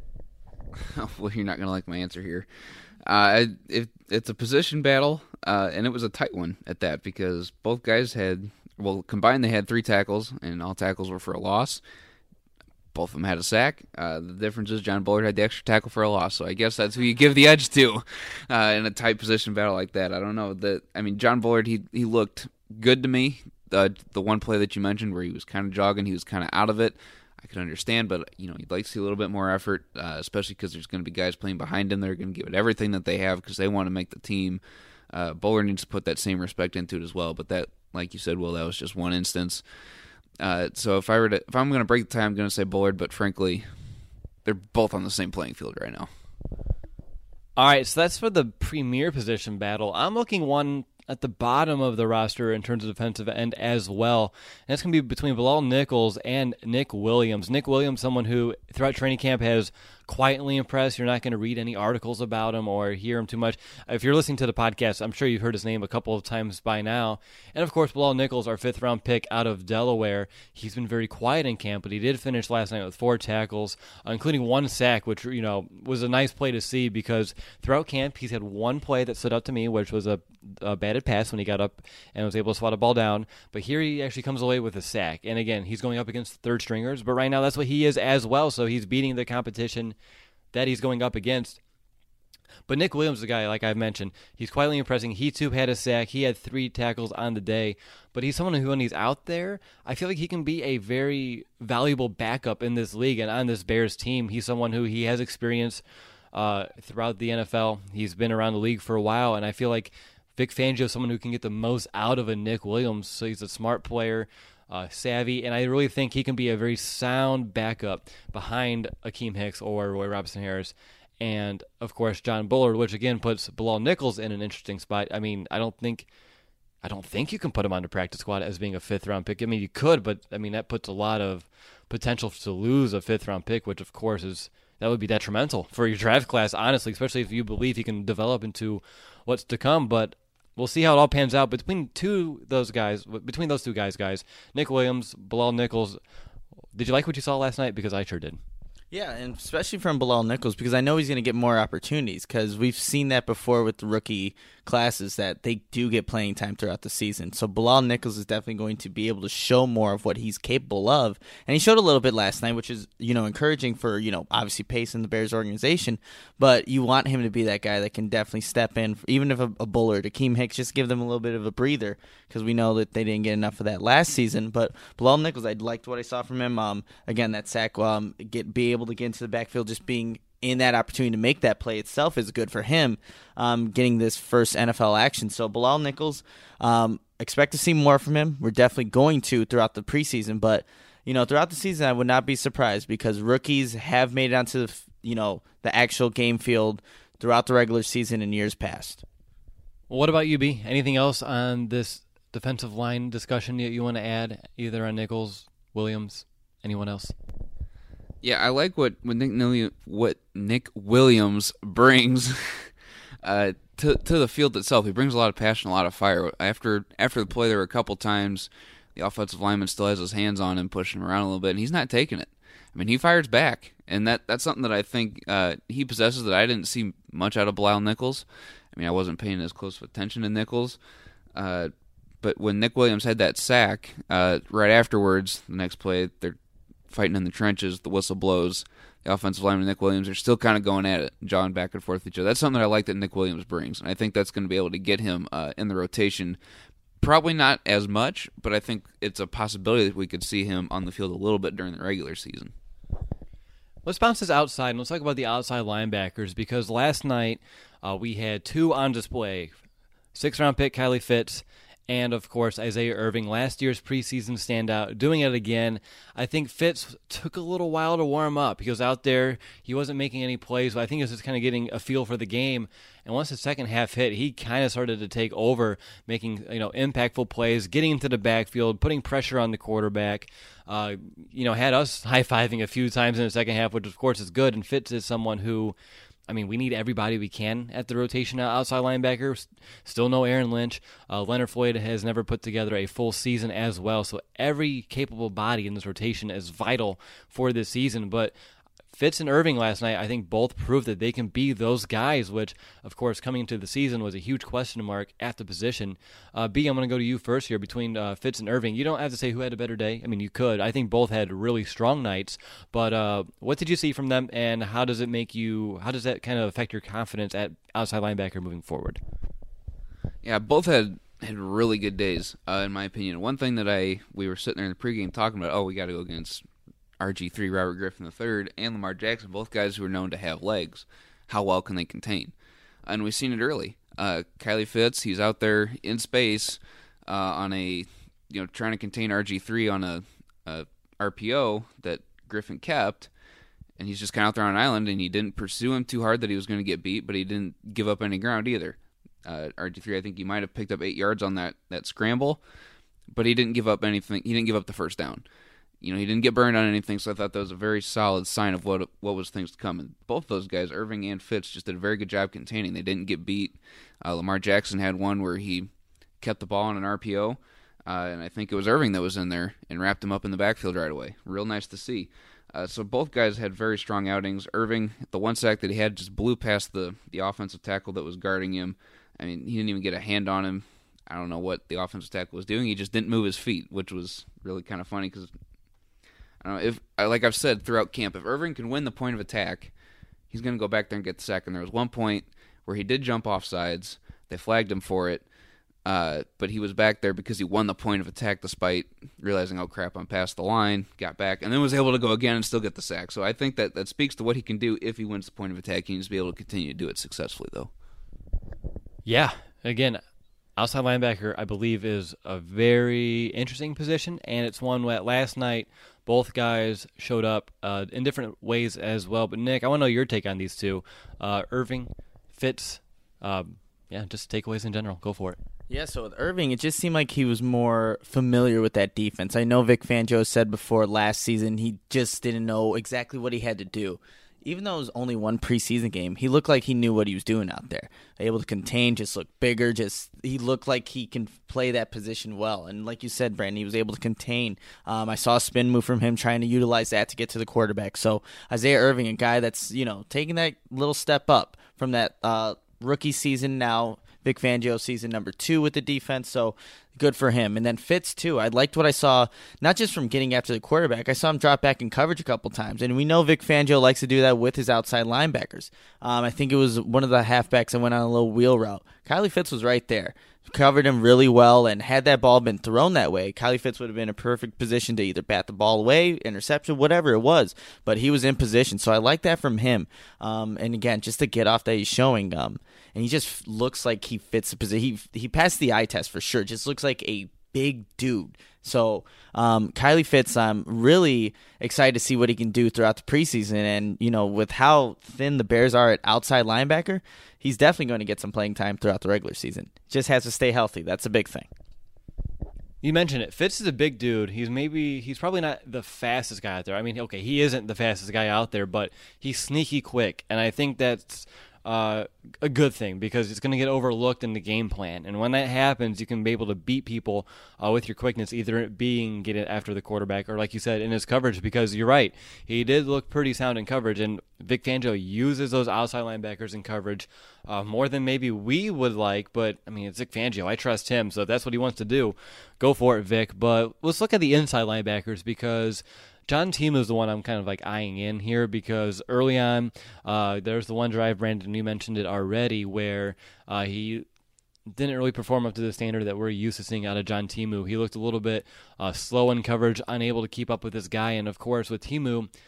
Well, you're not going to like my answer here. Uh, it, it's a position battle, uh, and it was a tight one at that, because both guys had, well, combined they had three tackles, and all tackles were for a loss. Both of them had a sack. Uh, the difference is John Bullard had the extra tackle for a loss, so I guess that's who you give the edge to uh, in a tight position battle like that. I don't know. That I mean, John Bullard, he he looked good to me. Uh, the one play that you mentioned where he was kind of jogging, he was kind of out of it. I could understand, but you know, you'd like to see a little bit more effort, uh, especially because there's going to be guys playing behind him. They're going to give it everything that they have because they want to make the team. Uh, Bullard needs to put that same respect into it as well. But that, like you said, Will, that was just one instance. Uh, so if I were to, if I'm going to break the tie, I'm going to say Bullard. But frankly, they're both on the same playing field right now. All right, so that's for the premier position battle. I'm looking one at the bottom of the roster in terms of defensive end as well. And that's going to be between Bilal Nichols and Nick Williams. Nick Williams, someone who throughout training camp has quietly impressed. You're not going to read any articles about him or hear him too much. If you're listening to the podcast, I'm sure you've heard his name a couple of times by now. And, of course, Bilal Nichols, our fifth-round pick out of Delaware. He's been very quiet in camp, but he did finish last night with four tackles, uh, including one sack, which, you know, was a nice play to see because throughout camp he's had one play that stood out to me, which was a, a batted pass when he got up and was able to swat a ball down. But here he actually comes away with a sack. And, again, he's going up against third stringers, but right now that's what he is as well, so he's beating the competition that he's going up against. But Nick Williams is a guy, like I've mentioned, he's quietly impressing. He, too, had a sack. He had three tackles on the day. But he's someone who, when he's out there, I feel like he can be a very valuable backup in this league and on this Bears team. He's someone who he has experience uh, throughout the N F L. He's been around the league for a while, and I feel like Vic Fangio is someone who can get the most out of a Nick Williams. So he's a smart player, Uh, savvy, and I really think he can be a very sound backup behind Akeem Hicks or Roy Robertson Harris, and of course John Bullard, which again puts Bilal Nichols in an interesting spot. I mean, I don't think, I don't think you can put him on the practice squad as being a fifth round pick. I mean, you could, but I mean that puts a lot of potential to lose a fifth round pick, which of course is that would be detrimental for your draft class, honestly, especially if you believe he can develop into what's to come. But we'll see how it all pans out between two those guys. Between those two guys, guys, Nick Williams, Bilal Nichols. Did you like what you saw last night? Because I sure did. Yeah, and especially from Bilal Nichols, because I know he's going to get more opportunities, because we've seen that before with the rookie classes, that they do get playing time throughout the season. So Bilal Nichols is definitely going to be able to show more of what he's capable of, and he showed a little bit last night, which is, you know, encouraging for, you know, obviously pace in the Bears organization, but you want him to be that guy that can definitely step in, even if a, a Bullard, Akeem Hicks, just give them a little bit of a breather, because we know that they didn't get enough of that last season. But Bilal Nichols, I liked what I saw from him. Um, again, that sack, um, get be able to get into the backfield, just being in that opportunity to make that play itself is good for him, um, getting this first N F L action. So Bilal Nichols, um, expect to see more from him. We're definitely going to throughout the preseason, but you know, throughout the season, I would not be surprised because rookies have made it onto the, you know, the actual game field throughout the regular season in years past. Well, what about you, B? Anything else on this defensive line discussion that you want to add, either on Nichols, Williams, anyone else? Yeah, I like what what Nick, what Nick Williams brings uh, to to the field itself. He brings a lot of passion, a lot of fire. After after the play, there were a couple times the offensive lineman still has his hands on him, pushing him around a little bit, and he's not taking it. I mean, he fires back, and that that's something that I think uh, he possesses that I didn't see much out of Bilal Nichols. I mean, I wasn't paying as close attention to Nichols, uh, but when Nick Williams had that sack, uh, right afterwards, the next play, they're fighting in the trenches, the whistle blows, the offensive lineman and Nick Williams are still kind of going at it, jawing back and forth with each other. That's something that I like that Nick Williams brings, and I think that's going to be able to get him uh, in the rotation. Probably not as much, but I think it's a possibility that we could see him on the field a little bit during the regular season. Let's bounce this outside, and let's talk about the outside linebackers, because last night uh, we had two on display. Sixth-round pick Kylie Fitz and, of course, Isaiah Irving, last year's preseason standout, doing it again. I think Fitz took a little while to warm up. He was out there. He wasn't making any plays, but I think he was just kind of getting a feel for the game. And once the second half hit, he kind of started to take over, making you know impactful plays, getting into the backfield, putting pressure on the quarterback. Uh, you know, had us high-fiving a few times in the second half, which, of course, is good. And Fitz is someone who, I mean, we need everybody we can at the rotation outside linebacker. Still no Aaron Lynch. Uh, Leonard Floyd has never put together a full season as well. So every capable body in this rotation is vital for this season. But Fitz and Irving last night, I think both proved that they can be those guys, which, of course, coming into the season was a huge question mark at the position. Uh, B, I'm going to go to you first here between uh, Fitz and Irving. You don't have to say who had a better day. I mean, you could. I think both had really strong nights. But uh, what did you see from them, and how does it make you, how does that kind of affect your confidence at outside linebacker moving forward? Yeah, both had had really good days, uh, in my opinion. One thing that I we were sitting there in the pregame talking about, oh, we got to go against R G three, Robert Griffin the third, and Lamar Jackson, both guys who are known to have legs. How well can they contain? And we've seen it early. Uh, Kylie Fitz, he's out there in space uh, on a, you know, trying to contain R G three on a, a R P O that Griffin kept, and he's just kind of out there on an island, and he didn't pursue him too hard that he was going to get beat, but he didn't give up any ground either. Uh, R G three, I think he might have picked up eight yards on that, that scramble, but he didn't give up anything. He didn't give up the first down. You know, he didn't get burned on anything, so I thought that was a very solid sign of what what was things to come. And both those guys, Irving and Fitz, just did a very good job containing. They didn't get beat. Uh, Lamar Jackson had one where he kept the ball on an R P O, uh, and I think it was Irving that was in there and wrapped him up in the backfield right away. Real nice to see. Uh, so both guys had very strong outings. Irving, the one sack that he had, just blew past the, the offensive tackle that was guarding him. I mean, he didn't even get a hand on him. I don't know what the offensive tackle was doing. He just didn't move his feet, which was really kind of funny because, I don't know, if, like I've said throughout camp, if Irving can win the point of attack, he's going to go back there and get the sack. And there was one point where he did jump off sides. They flagged him for it, uh, but he was back there because he won the point of attack despite realizing, oh, crap, I'm past the line, got back, and then was able to go again and still get the sack. So I think that, that speaks to what he can do if he wins the point of attack. He needs to be able to continue to do it successfully, though. Yeah, again, outside linebacker, I believe, is a very interesting position, and it's one that last night both guys showed up uh, in different ways as well. But, Nick, I want to know your take on these two. Uh, Irving, Fitz, um, yeah, just takeaways in general. Go for it. Yeah, so with Irving, it just seemed like he was more familiar with that defense. I know Vic Fangio said before last season he just didn't know exactly what he had to do. Even though it was only one preseason game, he looked like he knew what he was doing out there. Able to contain, just look bigger. Just he looked like he can play that position well. And like you said, Brandon, he was able to contain. Um, I saw a spin move from him trying to utilize that to get to the quarterback. So Isaiah Irving, a guy that's you know taking that little step up from that uh, rookie season now. Vic Fangio season number two with the defense, so good for him. And then Fitz, too. I liked what I saw, not just from getting after the quarterback. I saw him drop back in coverage a couple times, and we know Vic Fangio likes to do that with his outside linebackers. Um, I think it was one of the halfbacks that went on a little wheel route. Kylie Fitz was right there. Covered him really well, and had that ball been thrown that way, Kylie Fitz would have been in a perfect position to either bat the ball away, interception, whatever it was. But he was in position, so I like that from him. Um, and again, just to get off that he's showing, um, and he just looks like he fits the position. He he passed the eye test for sure. Just looks like a big dude. So um, Kylie Fitz, I'm really excited to see what he can do throughout the preseason. And, you know, with how thin the Bears are at outside linebacker, he's definitely going to get some playing time throughout the regular season. Just has to stay healthy. That's a big thing. You mentioned it. Fitz is a big dude. He's maybe he's probably not the fastest guy out there. I mean, okay, he isn't the fastest guy out there, but he's sneaky quick. And I think that's Uh, a good thing because it's going to get overlooked in the game plan. And when that happens, you can be able to beat people uh, with your quickness, either it being get it after the quarterback or, like you said, in his coverage, because you're right. He did look pretty sound in coverage, and Vic Fangio uses those outside linebackers in coverage uh, more than maybe we would like, but, I mean, it's Vic Fangio. I trust him, so if that's what he wants to do, go for it, Vic. But let's look at the inside linebackers because John Timu is the one I'm kind of like eyeing in here because early on, uh, there's the one drive, Brandon, you mentioned it already, where uh, he didn't really perform up to the standard that we're used to seeing out of John Timu. He looked a little bit uh, slow in coverage, unable to keep up with this guy, and of course with Timu,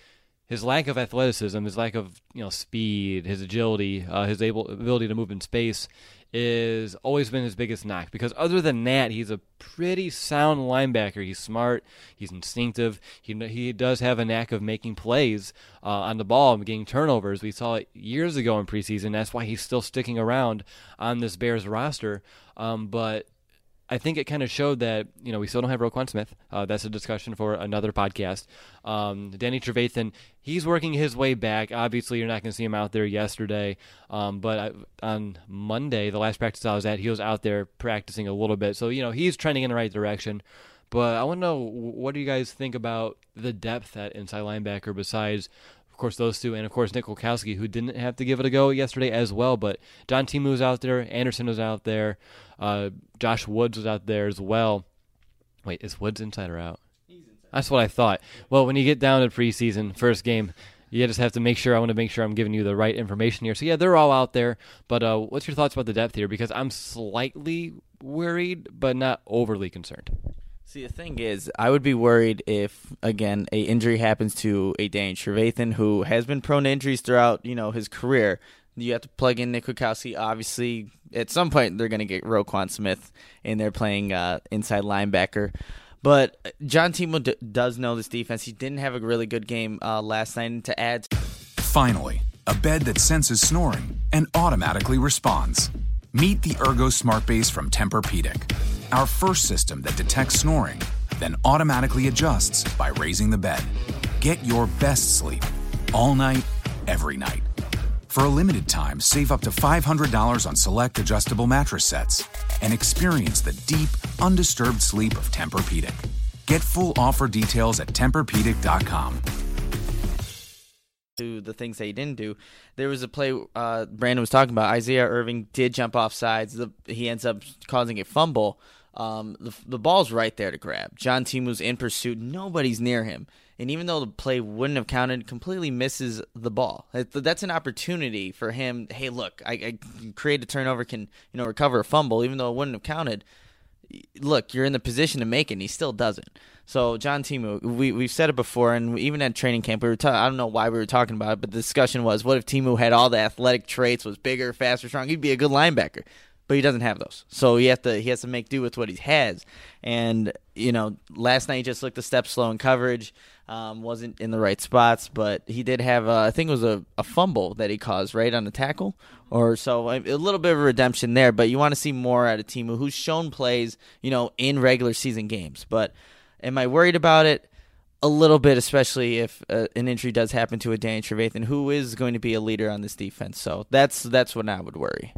his lack of athleticism, his lack of you know speed, his agility, uh, his able ability to move in space is always been his biggest knock. Because other than that, he's a pretty sound linebacker. He's smart. He's instinctive. He he does have a knack of making plays uh, on the ball and getting turnovers. We saw it years ago in preseason. That's why he's still sticking around on this Bears roster. Um, but I think it kind of showed that, you know, we still don't have Roquan Smith. Uh, that's a discussion for another podcast. Um, Danny Trevathan, he's working his way back. Obviously, you're not going to see him out there yesterday. Um, but I, on Monday, the last practice I was at, he was out there practicing a little bit. So, you know, he's trending in the right direction. But I want to know, what do you guys think about the depth at inside linebacker besides, of course, those two, and, of course, Nick Kwiatkowski, who didn't have to give it a go yesterday as well. But John Timu was out there. Anderson was out there. Uh, Josh Woods was out there as well. Wait, is Woods inside or out? He's inside. That's what I thought. Well, when you get down to preseason, first game, you just have to make sure, I want to make sure I'm giving you the right information here. So, yeah, they're all out there. But uh, what's your thoughts about the depth here? Because I'm slightly worried, but not overly concerned. See, the thing is, I would be worried if, again, a injury happens to a Danny Trevathan, who has been prone to injuries throughout, you know, his career. You have to plug in Nick Kwiatkowski. Obviously, at some point, they're going to get Roquan Smith in there playing uh, inside linebacker. But John Timu d- does know this defense. He didn't have a really good game uh, last night. And to add to- Finally, a bed that senses snoring and automatically responds. Meet the Ergo Smart Base from Tempur-Pedic, our first system that detects snoring, then automatically adjusts by raising the bed. Get your best sleep all night, every night. For a limited time, save up to five hundred dollars on select adjustable mattress sets and experience the deep, undisturbed sleep of Tempur-Pedic. Get full offer details at Tempur Pedic dot com. To the things that he didn't do, there was a play uh, Brandon was talking about. Isaiah Irving did jump off sides. The, he ends up causing a fumble. Um, the, the ball's right there to grab. John Timu's in pursuit. Nobody's near him. And even though the play wouldn't have counted, completely misses the ball. That's an opportunity for him. Hey, look, I, I can create a turnover, can you know recover a fumble, even though it wouldn't have counted. Look, you're in the position to make it, and he still doesn't. So John Timu, we, we've said it before, and even at training camp, we were ta- I don't know why we were talking about it, but the discussion was, what if Timu had all the athletic traits, was bigger, faster, strong? He'd be a good linebacker. But he doesn't have those, so he have to he has to make do with what he has. And you know, last night he just looked a step slow in coverage, um, wasn't in the right spots. But he did have, uh, I think it was a, a fumble that he caused right on the tackle, or so a little bit of a redemption there. But you want to see more out of Timu, who's shown plays, you know, in regular season games. But am I worried about it? A little bit, especially if uh, an injury does happen to a Danny Trevathan, who is going to be a leader on this defense. So that's that's when I would worry.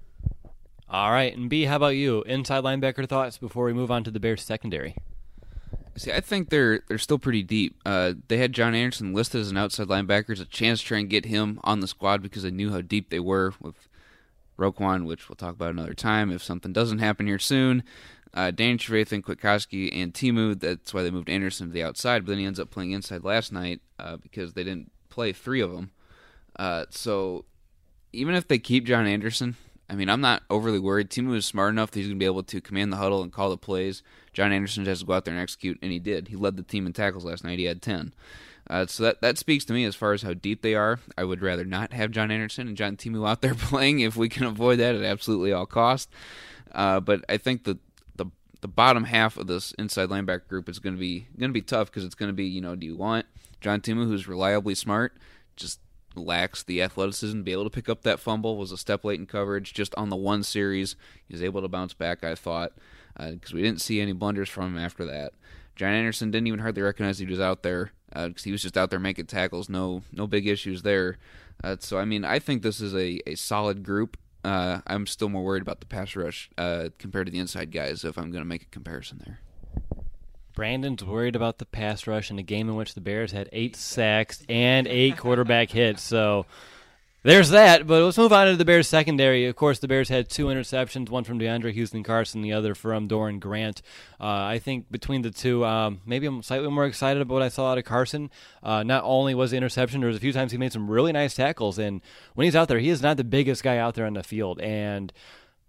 All right, and B, how about you? Inside linebacker thoughts before we move on to the Bears secondary. See, I think they're they're still pretty deep. Uh, they had John Anderson listed as an outside linebacker, as a chance to try and get him on the squad because they knew how deep they were with Roquan, which we'll talk about another time if something doesn't happen here soon. Uh, Danny Trevathan, Kwiatkowski, and Timu, that's why they moved Anderson to the outside, but then he ends up playing inside last night uh, because they didn't play three of them. Uh, so even if they keep John Anderson, I mean, I'm not overly worried. Timu is smart enough that he's going to be able to command the huddle and call the plays. John Anderson has to go out there and execute, and he did. He led the team in tackles last night. He had ten. Uh, so that, that speaks to me as far as how deep they are. I would rather not have John Anderson and John Timu out there playing if we can avoid that at absolutely all costs. Uh, but I think the, the the bottom half of this inside linebacker group is going to be going to be tough because it's going to be, you know, do you want John Timu, who's reliably smart, just lacks the athleticism to be able to pick up that fumble, was a step late in coverage just on the one series. He was able to bounce back, I thought, because uh, we didn't see any blunders from him after that. John Anderson didn't even hardly recognize he was out there because uh, he was just out there making tackles. No no big issues there. Uh, so, I mean, I think this is a, a solid group. Uh, I'm still more worried about the pass rush uh, compared to the inside guys if I'm going to make a comparison there. Brandon's worried about the pass rush in a game in which the Bears had eight sacks and eight quarterback hits. So there's that. But let's move on to the Bears secondary. Of course, the Bears had two interceptions, one from DeAndre Houston Carson, the other from Doran Grant. Uh, I think between the two, um, maybe I'm slightly more excited about what I saw out of Carson. Uh, not only was the interception, there was a few times he made some really nice tackles. And when he's out there, he is not the biggest guy out there on the field. And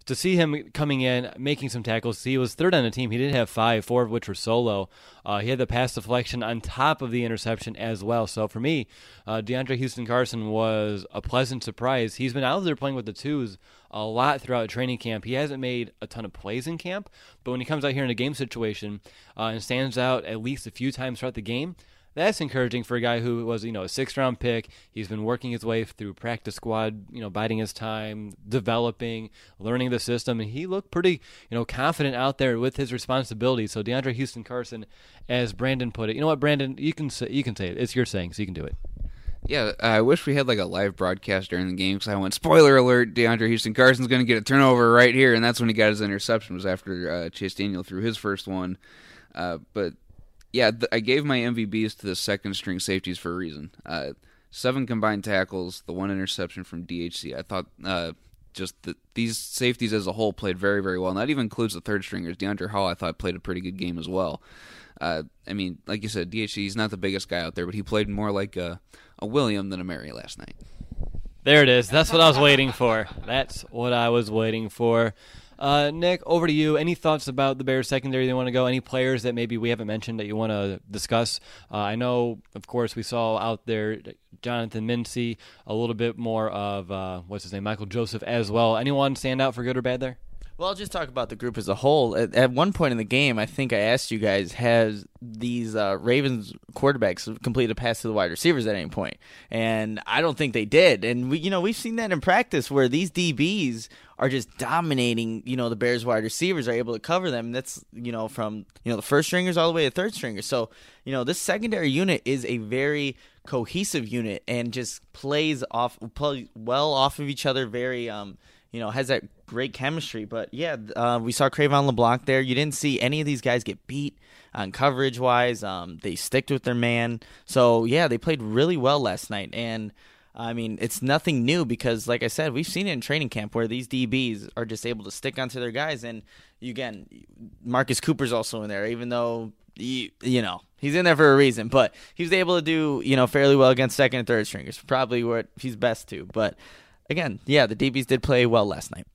to see him coming in, making some tackles, he was third on the team. He did have five, four of which were solo. Uh, he had the pass deflection on top of the interception as well. So for me, uh, DeAndre Houston Carson was a pleasant surprise. He's been out there playing with the twos a lot throughout training camp. He hasn't made a ton of plays in camp, but when he comes out here in a game situation uh, and stands out at least a few times throughout the game, that's encouraging for a guy who was, you know, a sixth-round pick. He's been working his way through practice squad, you know, biding his time, developing, learning the system, and he looked pretty, you know, confident out there with his responsibilities. So DeAndre Houston Carson, as Brandon put it, you know what, Brandon, you can say, you can say it. It's your saying, so you can do it. Yeah, I wish we had like a live broadcast during the game because I went, spoiler alert, DeAndre Houston Carson's going to get a turnover right here, and that's when he got his interception, was after uh, Chase Daniel threw his first one. Uh, but Yeah, th- I gave my M V Bs to the second-string safeties for a reason. Uh, seven combined tackles, the one interception from D H C. I thought uh, just the, these safeties as a whole played very, very well. And that even includes the third-stringers. DeAndre Hall, I thought, played a pretty good game as well. Uh, I mean, like you said, D H C, he's not the biggest guy out there, but he played more like a, a William than a Mary last night. There it is. That's what I was waiting for. That's what I was waiting for. Uh, Nick, over to you. Any thoughts about the Bears secondary you want to go? Any players that maybe we haven't mentioned that you want to discuss? Uh, I know, of course, we saw out there Jonathan Mincy, a little bit more of, uh, what's his name, Michael Joseph as well. Anyone stand out for good or bad there? Well, I'll just talk about the group as a whole. At, at one point in the game, I think I asked you guys, has these uh, Ravens quarterbacks completed a pass to the wide receivers at any point? And I don't think they did. And we, you know, we've seen that in practice where these D Bs are just dominating. You know, the Bears wide receivers are able to cover them. That's, you know, from you know the first stringers all the way to third stringers. So you know, this secondary unit is a very cohesive unit and just plays off, plays well off of each other. Very um. You know, has that great chemistry. But, yeah, uh, we saw Cravon LeBlanc there. You didn't see any of these guys get beat on coverage-wise. Um, they sticked with their man. So, yeah, they played really well last night. And, I mean, it's nothing new because, like I said, we've seen it in training camp where these D Bs are just able to stick onto their guys. And, again, Marcus Cooper's also in there, even though, you, you know, he's in there for a reason. But he was able to do, you know, fairly well against second and third stringers. Probably what he's best to. But, again, yeah, the D Bs did play well last night.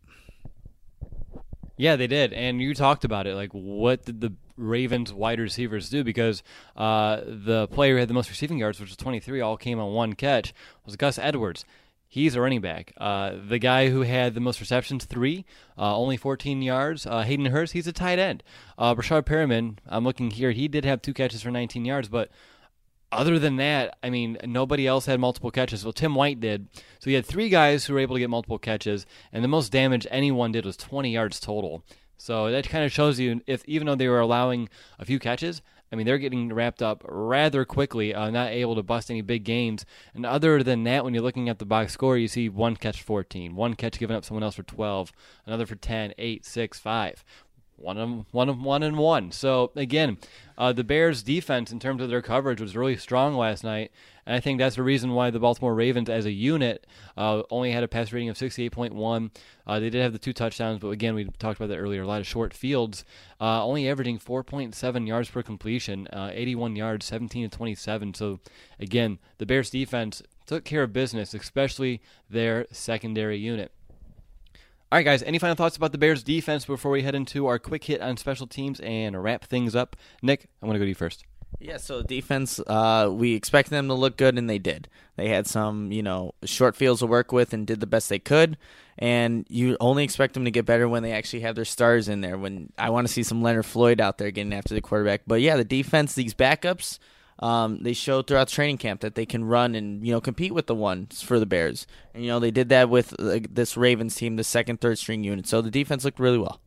Yeah, they did, and you talked about it. Like, what did the Ravens wide receivers do? Because uh, the player who had the most receiving yards, which was twenty-three, all came on one catch, was Gus Edwards. He's a running back. Uh, the guy who had the most receptions, three, uh, only fourteen yards, uh, Hayden Hurst, he's a tight end. Uh, Brashard Perriman, I'm looking here, he did have two catches for nineteen yards, but other than that, I mean, nobody else had multiple catches. Well, Tim White did. So you had three guys who were able to get multiple catches, and the most damage anyone did was twenty yards total. So that kind of shows you, if even though they were allowing a few catches, I mean, they're getting wrapped up rather quickly, uh, not able to bust any big gains. And other than that, when you're looking at the box score, you see one catch for fourteen, one catch given up someone else for twelve, another for ten, eight, six, five. One of one of one and one. So again, uh, the Bears' defense in terms of their coverage was really strong last night, and I think that's the reason why the Baltimore Ravens, as a unit, uh, only had a pass rating of sixty-eight point one. Uh, they did have the two touchdowns, but again, we talked about that earlier. A lot of short fields, uh, only averaging four point seven yards per completion, uh, eighty-one yards, seventeen to twenty-seven. So again, the Bears' defense took care of business, especially their secondary unit. All right, guys, any final thoughts about the Bears' defense before we head into our quick hit on special teams and wrap things up? Nick, I want to go to you first. Yeah, so defense, uh, we expected them to look good, and they did. They had some, you know, short fields to work with and did the best they could, and you only expect them to get better when they actually have their stars in there. When I want to see some Leonard Floyd out there getting after the quarterback. But, yeah, the defense, these backups, Um, they showed throughout training camp that they can run and, you know, compete with the ones for the Bears. And, you know, they did that with uh, this Ravens team, the second, third string unit. So the defense looked really well.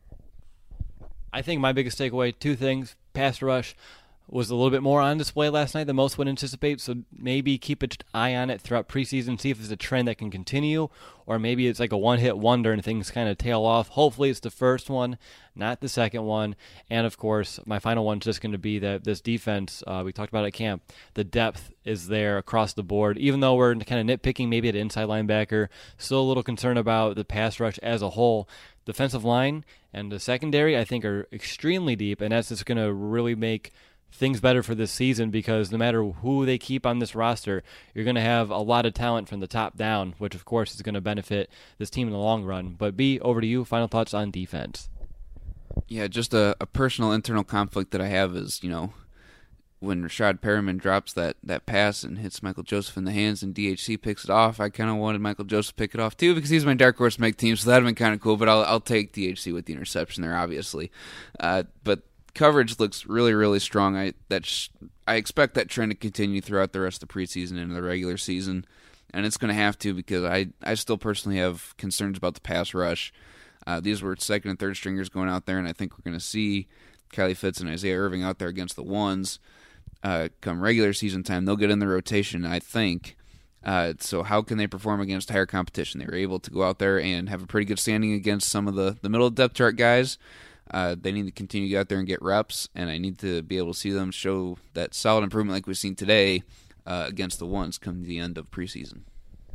I think my biggest takeaway, two things. Pass rush was a little bit more on display last night than most would anticipate, so maybe keep an eye on it throughout preseason, see if it's a trend that can continue, or maybe it's like a one-hit wonder and things kind of tail off. Hopefully it's the first one, not the second one. And, of course, my final one's just going to be that this defense, uh, we talked about at camp, the depth is there across the board. Even though we're kind of nitpicking maybe at inside linebacker, still a little concerned about the pass rush as a whole. Defensive line and the secondary, I think, are extremely deep, and that's just going to really make things better for this season, because no matter who they keep on this roster, you're going to have a lot of talent from the top down, which of course is going to benefit this team in the long run. But B, over to you. Final thoughts on defense. Yeah, just a, a personal internal conflict that I have is, you know, when Rashad Perriman drops that, that pass and hits Michael Joseph in the hands and D H C picks it off, I kind of wanted Michael Joseph to pick it off too, because he's my dark horse to make team, so that would have been kind of cool, but I'll, I'll take D H C with the interception there, obviously. Uh, but coverage looks really, really strong. I that's I expect that trend to continue throughout the rest of the preseason and the regular season, and it's going to have to, because I, I still personally have concerns about the pass rush. Uh, these were second and third stringers going out there, and I think we're going to see Kylie Fitz and Isaiah Irving out there against the ones uh, come regular season time. They'll get in the rotation, I think. Uh, so how can they perform against higher competition? They were able to go out there and have a pretty good standing against some of the, the middle depth chart guys. Uh, they need to continue to get out there and get reps, and I need to be able to see them show that solid improvement like we've seen today uh, against the ones come the end of preseason.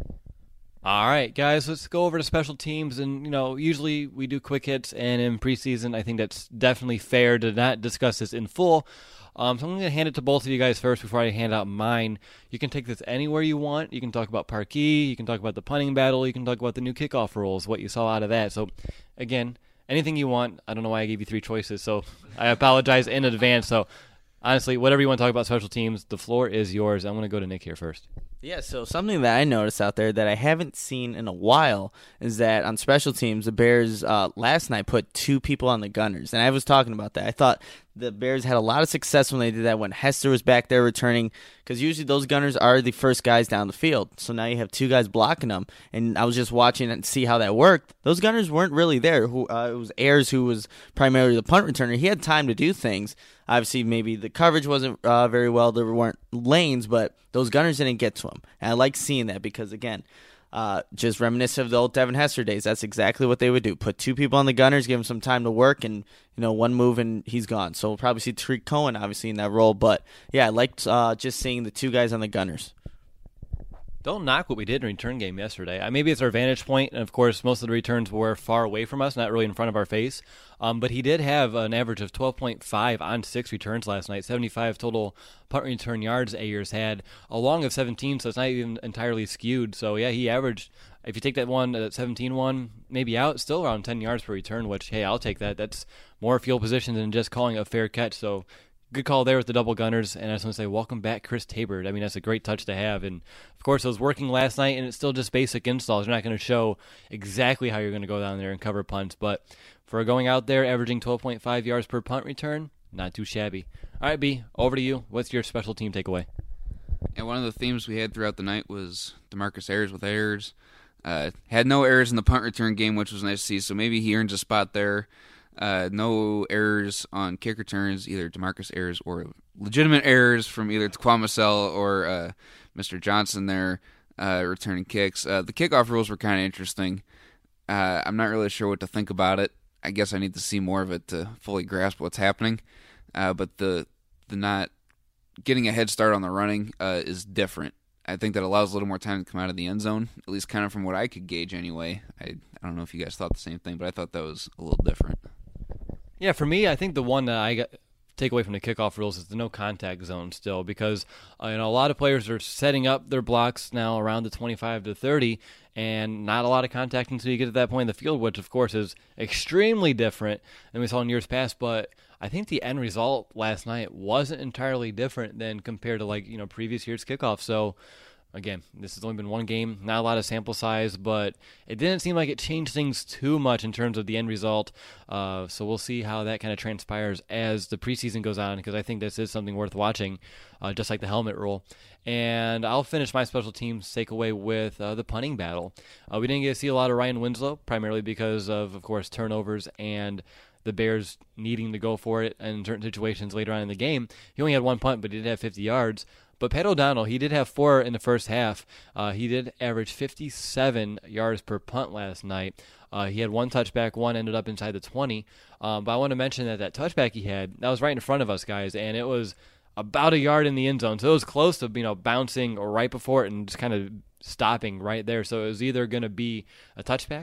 All right, guys, let's go over to special teams. And, you know, usually we do quick hits, and in preseason, I think that's definitely fair to not discuss this in full. Um, so I'm going to hand it to both of you guys first before I hand out mine. You can take this anywhere you want. You can talk about Parkey. You can talk about the punting battle. You can talk about the new kickoff rules, what you saw out of that. So, again, anything you want. I don't know why I gave you three choices, so I apologize in advance. So, honestly, whatever you want to talk about special teams, the floor is yours. I'm going to go to Nick here first. Yeah, so something that I noticed out there that I haven't seen in a while is that on special teams, the Bears uh, last night put two people on the gunners, and I was talking about that. I thought the Bears had a lot of success when they did that, when Hester was back there returning, because usually those gunners are the first guys down the field. So now you have two guys blocking them, and I was just watching and see how that worked. Those gunners weren't really there. Who uh, it was Ayers, who was primarily the punt returner. He had time to do things. Obviously, maybe the coverage wasn't uh, very well. There weren't lanes, but those gunners didn't get to him. And I like seeing that because, again, uh, just reminiscent of the old Devin Hester days. That's exactly what they would do. Put two people on the gunners, give him some time to work, and, you know, one move and he's gone. So we'll probably see Tariq Cohen, obviously, in that role. But, yeah, I liked uh, just seeing the two guys on the gunners. Don't knock what we did in the return game yesterday. Uh, maybe it's our vantage point, and of course, most of the returns were far away from us, not really in front of our face. Um, but he did have an average of twelve point five on six returns last night, seventy-five total punt return yards Ayers had, a long of seventeen, so it's not even entirely skewed. So, yeah, he averaged, if you take that one, that seventeen one, maybe out, still around ten yards per return, which, hey, I'll take that. That's more field position than just calling a fair catch. So, good call there with the double gunners, and I just want to say welcome back, Chris Tabor. I mean, that's a great touch to have, and of course, it was working last night, and it's still just basic installs. You're not going to show exactly how you're going to go down there and cover punts, but for going out there, averaging twelve point five yards per punt return, not too shabby. All right, B, over to you. What's your special team takeaway? And one of the themes we had throughout the night was DeMarcus Ayers with errors. Uh, had no errors in the punt return game, which was nice to see, so maybe he earns a spot there. Uh, no errors on kick returns, either DeMarcus Ayers or legitimate errors from either Taquan Massell or uh, Mister Johnson there uh, returning kicks. Uh, the kickoff rules were kind of interesting. Uh, I'm not really sure what to think about it. I guess I need to see more of it to fully grasp what's happening. Uh, but the the not getting a head start on the running uh, is different. I think that allows a little more time to come out of the end zone, at least kind of from what I could gauge anyway. I, I don't know if you guys thought the same thing, but I thought that was a little different. Yeah, for me, I think the one that I got take away from the kickoff rules is the no contact zone still, because uh, you know, a lot of players are setting up their blocks now around the twenty-five to thirty, and not a lot of contact until you get to that point in the field, which of course is extremely different than we saw in years past. But I think the end result last night wasn't entirely different than compared to, like, you know, previous year's kickoff. So again, this has only been one game, not a lot of sample size, but it didn't seem like it changed things too much in terms of the end result. Uh, so we'll see how that kind of transpires as the preseason goes on, because I think this is something worth watching, uh, just like the helmet rule. And I'll finish my special teams takeaway with uh, the punting battle. Uh, we didn't get to see a lot of Ryan Winslow, primarily because of, of course, turnovers and the Bears needing to go for it in certain situations later on in the game. He only had one punt, but he did have fifty yards. But Pat O'Donnell, he did have four in the first half. Uh, he did average fifty-seven yards per punt last night. Uh, he had one touchback, one ended up inside the twenty. Um, but I want to mention that that touchback he had, that was right in front of us, guys, and it was about a yard in the end zone. So it was close to, you know, bouncing right before it and just kind of stopping right there. So it was either going to be a touchback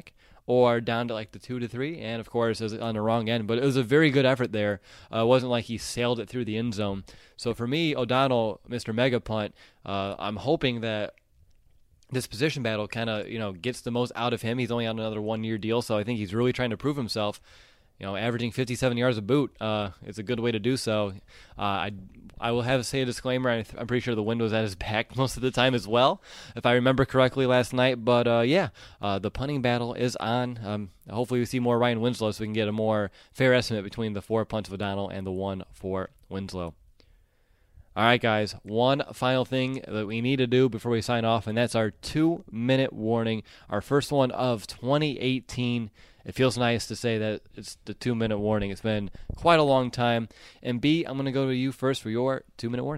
or down to like the two to three, and of course it was on the wrong end. But it was a very good effort there. Uh, it wasn't like he sailed it through the end zone. So for me, O'Donnell, Mister Mega Punt, uh, I'm hoping that this position battle kind of, you know, gets the most out of him. He's only on another one-year deal, so I think he's really trying to prove himself. You know, averaging fifty-seven yards a boot uh, is a good way to do so. Uh, I I will have to say a disclaimer. I th- I'm pretty sure the wind was at his back most of the time as well, if I remember correctly last night. But, uh, yeah, uh, the punting battle is on. Um, hopefully we see more Ryan Winslow so we can get a more fair estimate between the four punts of O'Donnell and the one for Winslow. All right, guys, one final thing that we need to do before we sign off, and that's our two-minute warning, our first one of twenty eighteen. It feels nice to say that it's the two-minute warning. It's been quite a long time. And B, I'm going to go to you first for your two-minute warning.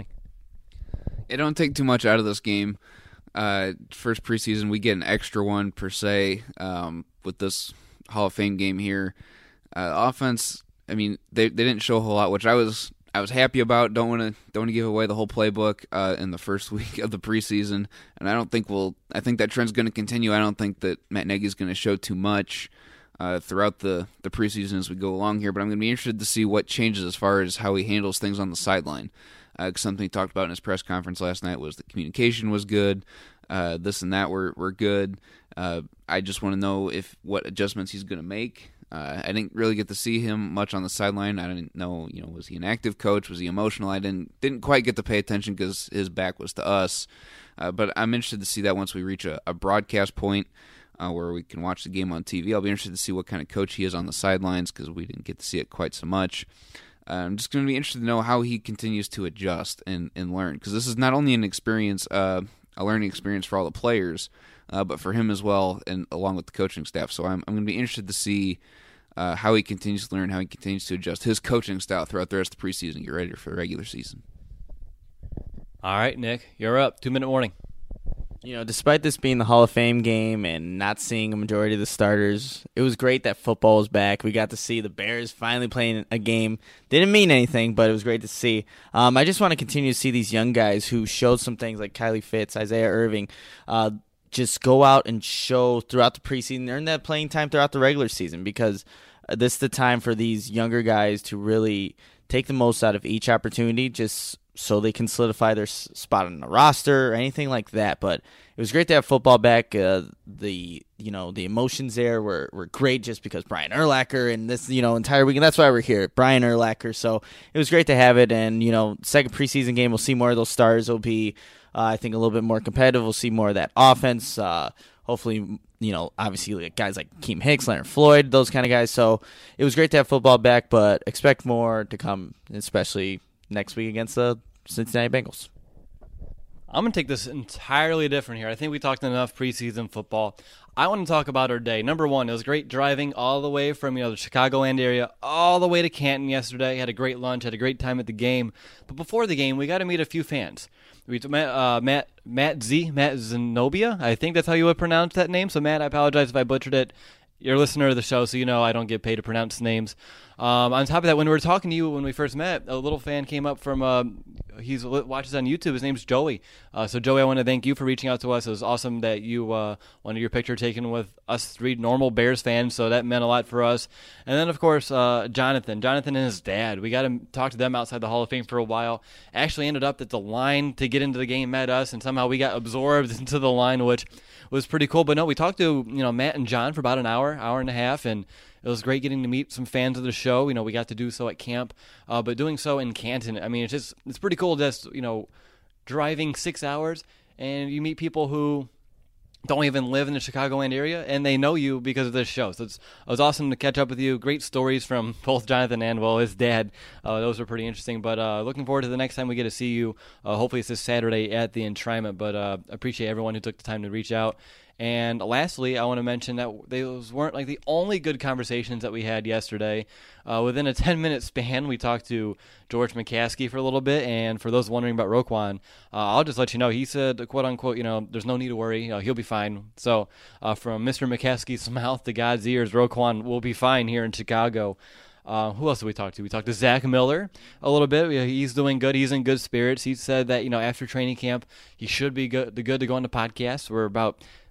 It don't take too much out of this game. Uh, first preseason, we get an extra one per se um, with this Hall of Fame game here. Uh, offense, I mean, they they didn't show a whole lot, which I was I was happy about. Don't want to don't want to give away the whole playbook uh, in the first week of the preseason, and I don't think we'll. I think that trend's going to continue. I don't think that Matt Nagy's going to show too much Uh, throughout the, the preseason as we go along here, but I'm going to be interested to see what changes as far as how he handles things on the sideline. Uh, something he talked about in his press conference last night was the communication was good, uh, this and that were, were good. Uh, I just want to know if what adjustments he's going to make. Uh, I didn't really get to see him much on the sideline. I didn't know, you know, was he an active coach? Was he emotional? I didn't didn't quite get to pay attention because his back was to us. Uh, but I'm interested to see that once we reach a, a broadcast point. Uh, where we can watch the game on T V. I'll be interested to see what kind of coach he is on the sidelines because we didn't get to see it quite so much. Uh, I'm just going to be interested to know how he continues to adjust and, and learn because this is not only an experience, uh, a learning experience for all the players, uh, but for him as well and along with the coaching staff. So I'm, I'm going to be interested to see uh, how he continues to learn, how he continues to adjust his coaching style throughout the rest of the preseason, get ready for the regular season. All right, Nick, you're up. Two-minute warning. You know, despite this being the Hall of Fame game and not seeing a majority of the starters, it was great that football was back. We got to see the Bears finally playing a game. Didn't mean anything, but it was great to see. Um, I just want to continue to see these young guys who showed some things like Kylie Fitz, Isaiah Irving, uh, just go out and show throughout the preseason, earn that playing time throughout the regular season because uh, this is the time for these younger guys to really take the most out of each opportunity, just so they can solidify their s- spot on the roster or anything like that. But it was great to have football back. Uh, the you know the emotions there were, were great just because Brian Urlacher and this you know entire weekend. That's why we're here, Brian Urlacher. So it was great to have it. And you know, second preseason game, we'll see more of those stars. It'll be uh, I think a little bit more competitive. We'll see more of that offense. Uh, hopefully, you know, obviously like guys like Keem Hicks, Leonard Floyd, those kind of guys. So it was great to have football back, but expect more to come, especially next week against the Cincinnati Bengals. I'm going to take this entirely different here. I think we talked enough preseason football. I want to talk about our day. Number one, it was great driving all the way from you know the Chicagoland area all the way to Canton yesterday. Had a great lunch, had a great time at the game. But before the game, we got to meet a few fans. We met uh, Matt Matt Z Matt Zenobia. I think that's how you would pronounce that name. So Matt, I apologize if I butchered it. You're a listener of the show, so you know I don't get paid to pronounce names. Um, on top of that, when we were talking to you when we first met, a little fan came up from, uh, he watches on YouTube. His name's Joey. Uh, so, Joey, I want to thank you for reaching out to us. It was awesome that you uh, wanted your picture taken with us three normal Bears fans, so that meant a lot for us. And then, of course, uh, Jonathan. Jonathan and his dad. We got to talk to them outside the Hall of Fame for a while. Actually ended up that the line to get into the game met us, and somehow we got absorbed into the line, which was pretty cool. But, no, we talked to you know Matt and John for about an hour, hour and a half, and it was great getting to meet some fans of the show. You know, we got to do so at camp, uh, but doing so in Canton, I mean, it's just it's pretty cool just, you know, driving six hours and you meet people who don't even live in the Chicagoland area, and they know you because of this show. So it's, it was awesome to catch up with you. Great stories from both Jonathan and, well, his dad. Uh, those were pretty interesting. But uh, looking forward to the next time we get to see you. Uh, hopefully it's this Saturday at the Enshrinement. But uh, appreciate everyone who took the time to reach out. And lastly, I want to mention that those weren't like the only good conversations that we had yesterday. Uh, within a ten-minute span, we talked to George McCaskey for a little bit. And for those wondering about Roquan, uh, I'll just let you know, he said, quote unquote, you know, there's no need to worry. You know, he'll be fine. So uh, from Mister McCaskey's mouth to God's ears, Roquan will be fine here in Chicago. Uh, who else did we talk to? We talked to Zach Miller a little bit. He's doing good. He's in good spirits. He said that, you know, after training camp, he should be good, good to go on the podcast. We're about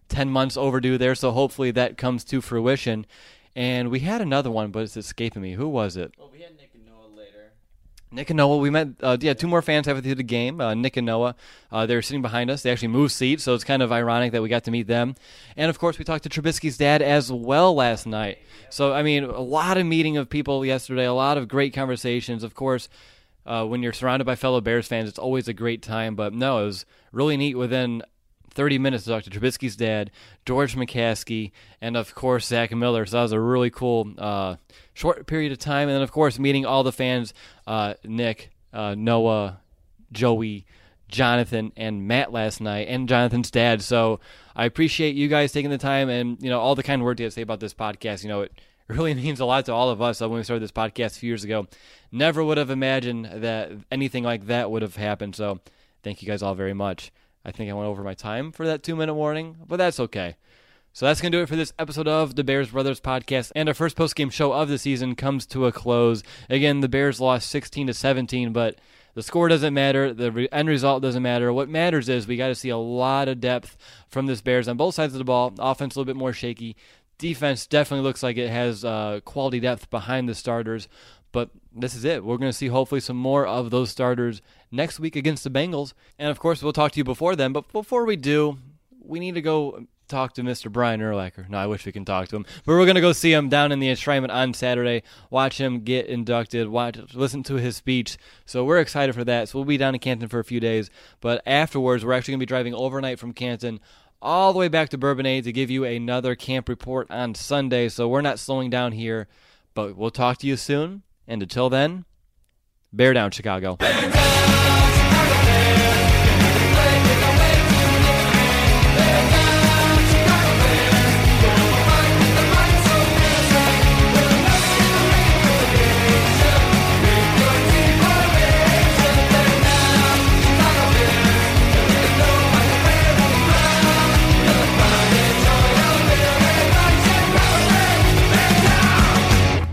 ten months overdue there, so hopefully that comes to fruition. And we had another one, but it's escaping me. Who was it? Well, we had Nick and Noah later. Nick and Noah, we met, uh, yeah, two more fans halfway through the game. Uh, Nick and Noah, uh, they were sitting behind us. They actually moved seats, so it's kind of ironic that we got to meet them. And, of course, we talked to Trubisky's dad as well last night. So, I mean, a lot of meeting of people yesterday, a lot of great conversations. Of course, uh, when you're surrounded by fellow Bears fans, it's always a great time. But, no, it was really neat within thirty minutes to talk to Trubisky's dad, George McCaskey, and, of course, Zach Miller. So that was a really cool uh, short period of time. And then, of course, meeting all the fans, uh, Nick, uh, Noah, Joey, Jonathan, and Matt last night, and Jonathan's dad. So I appreciate you guys taking the time and, you know, all the kind words you have to say about this podcast. You know, it really means a lot to all of us. When we started this podcast a few years ago, never would have imagined that anything like that would have happened. So thank you guys all very much. I think I went over my time for that two-minute warning, but that's okay. So that's going to do it for this episode of the Bears Brothers Podcast, and our first post-game show of the season comes to a close. Again, the Bears lost sixteen to seventeen, but the score doesn't matter. The end result doesn't matter. What matters is we got to see a lot of depth from this Bears on both sides of the ball. Offense a little bit more shaky. Defense definitely looks like it has uh, quality depth behind the starters. But this is it. We're going to see hopefully some more of those starters next week against the Bengals. And, of course, we'll talk to you before then. But before we do, we need to go talk to Mister Brian Urlacher. No, I wish we can talk to him. But we're going to go see him down in the enshrinement on Saturday, watch him get inducted, watch, listen to his speech. So we're excited for that. So we'll be down in Canton for a few days. But afterwards, we're actually going to be driving overnight from Canton all the way back to Bourbonnais to give you another camp report on Sunday. So we're not slowing down here. But we'll talk to you soon. And until then, bear down, Chicago. Bear down, Chicago Bears. Play with the way to win. Bear down, Chicago Bears. We'll fight with the might so fierce. We'll never relegation. With your team motivation. Bear down, Chicago Bears. Till they know how to wear the crown. The pride and joy of Bears. Bear down, Chicago Bears. Bear down.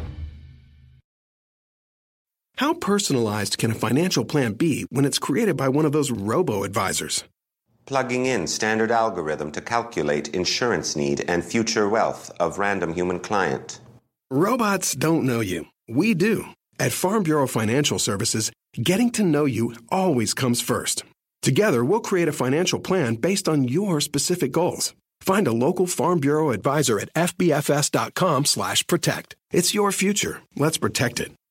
How personalized can a financial plan be when it's created by one of those robo-advisors? Plugging in standard algorithm to calculate insurance need and future wealth of random human client. Robots don't know you. We do. At Farm Bureau Financial Services, getting to know you always comes first. Together, we'll create a financial plan based on your specific goals. Find a local Farm Bureau advisor at f b f s dot com slash protect. It's your future. Let's protect it.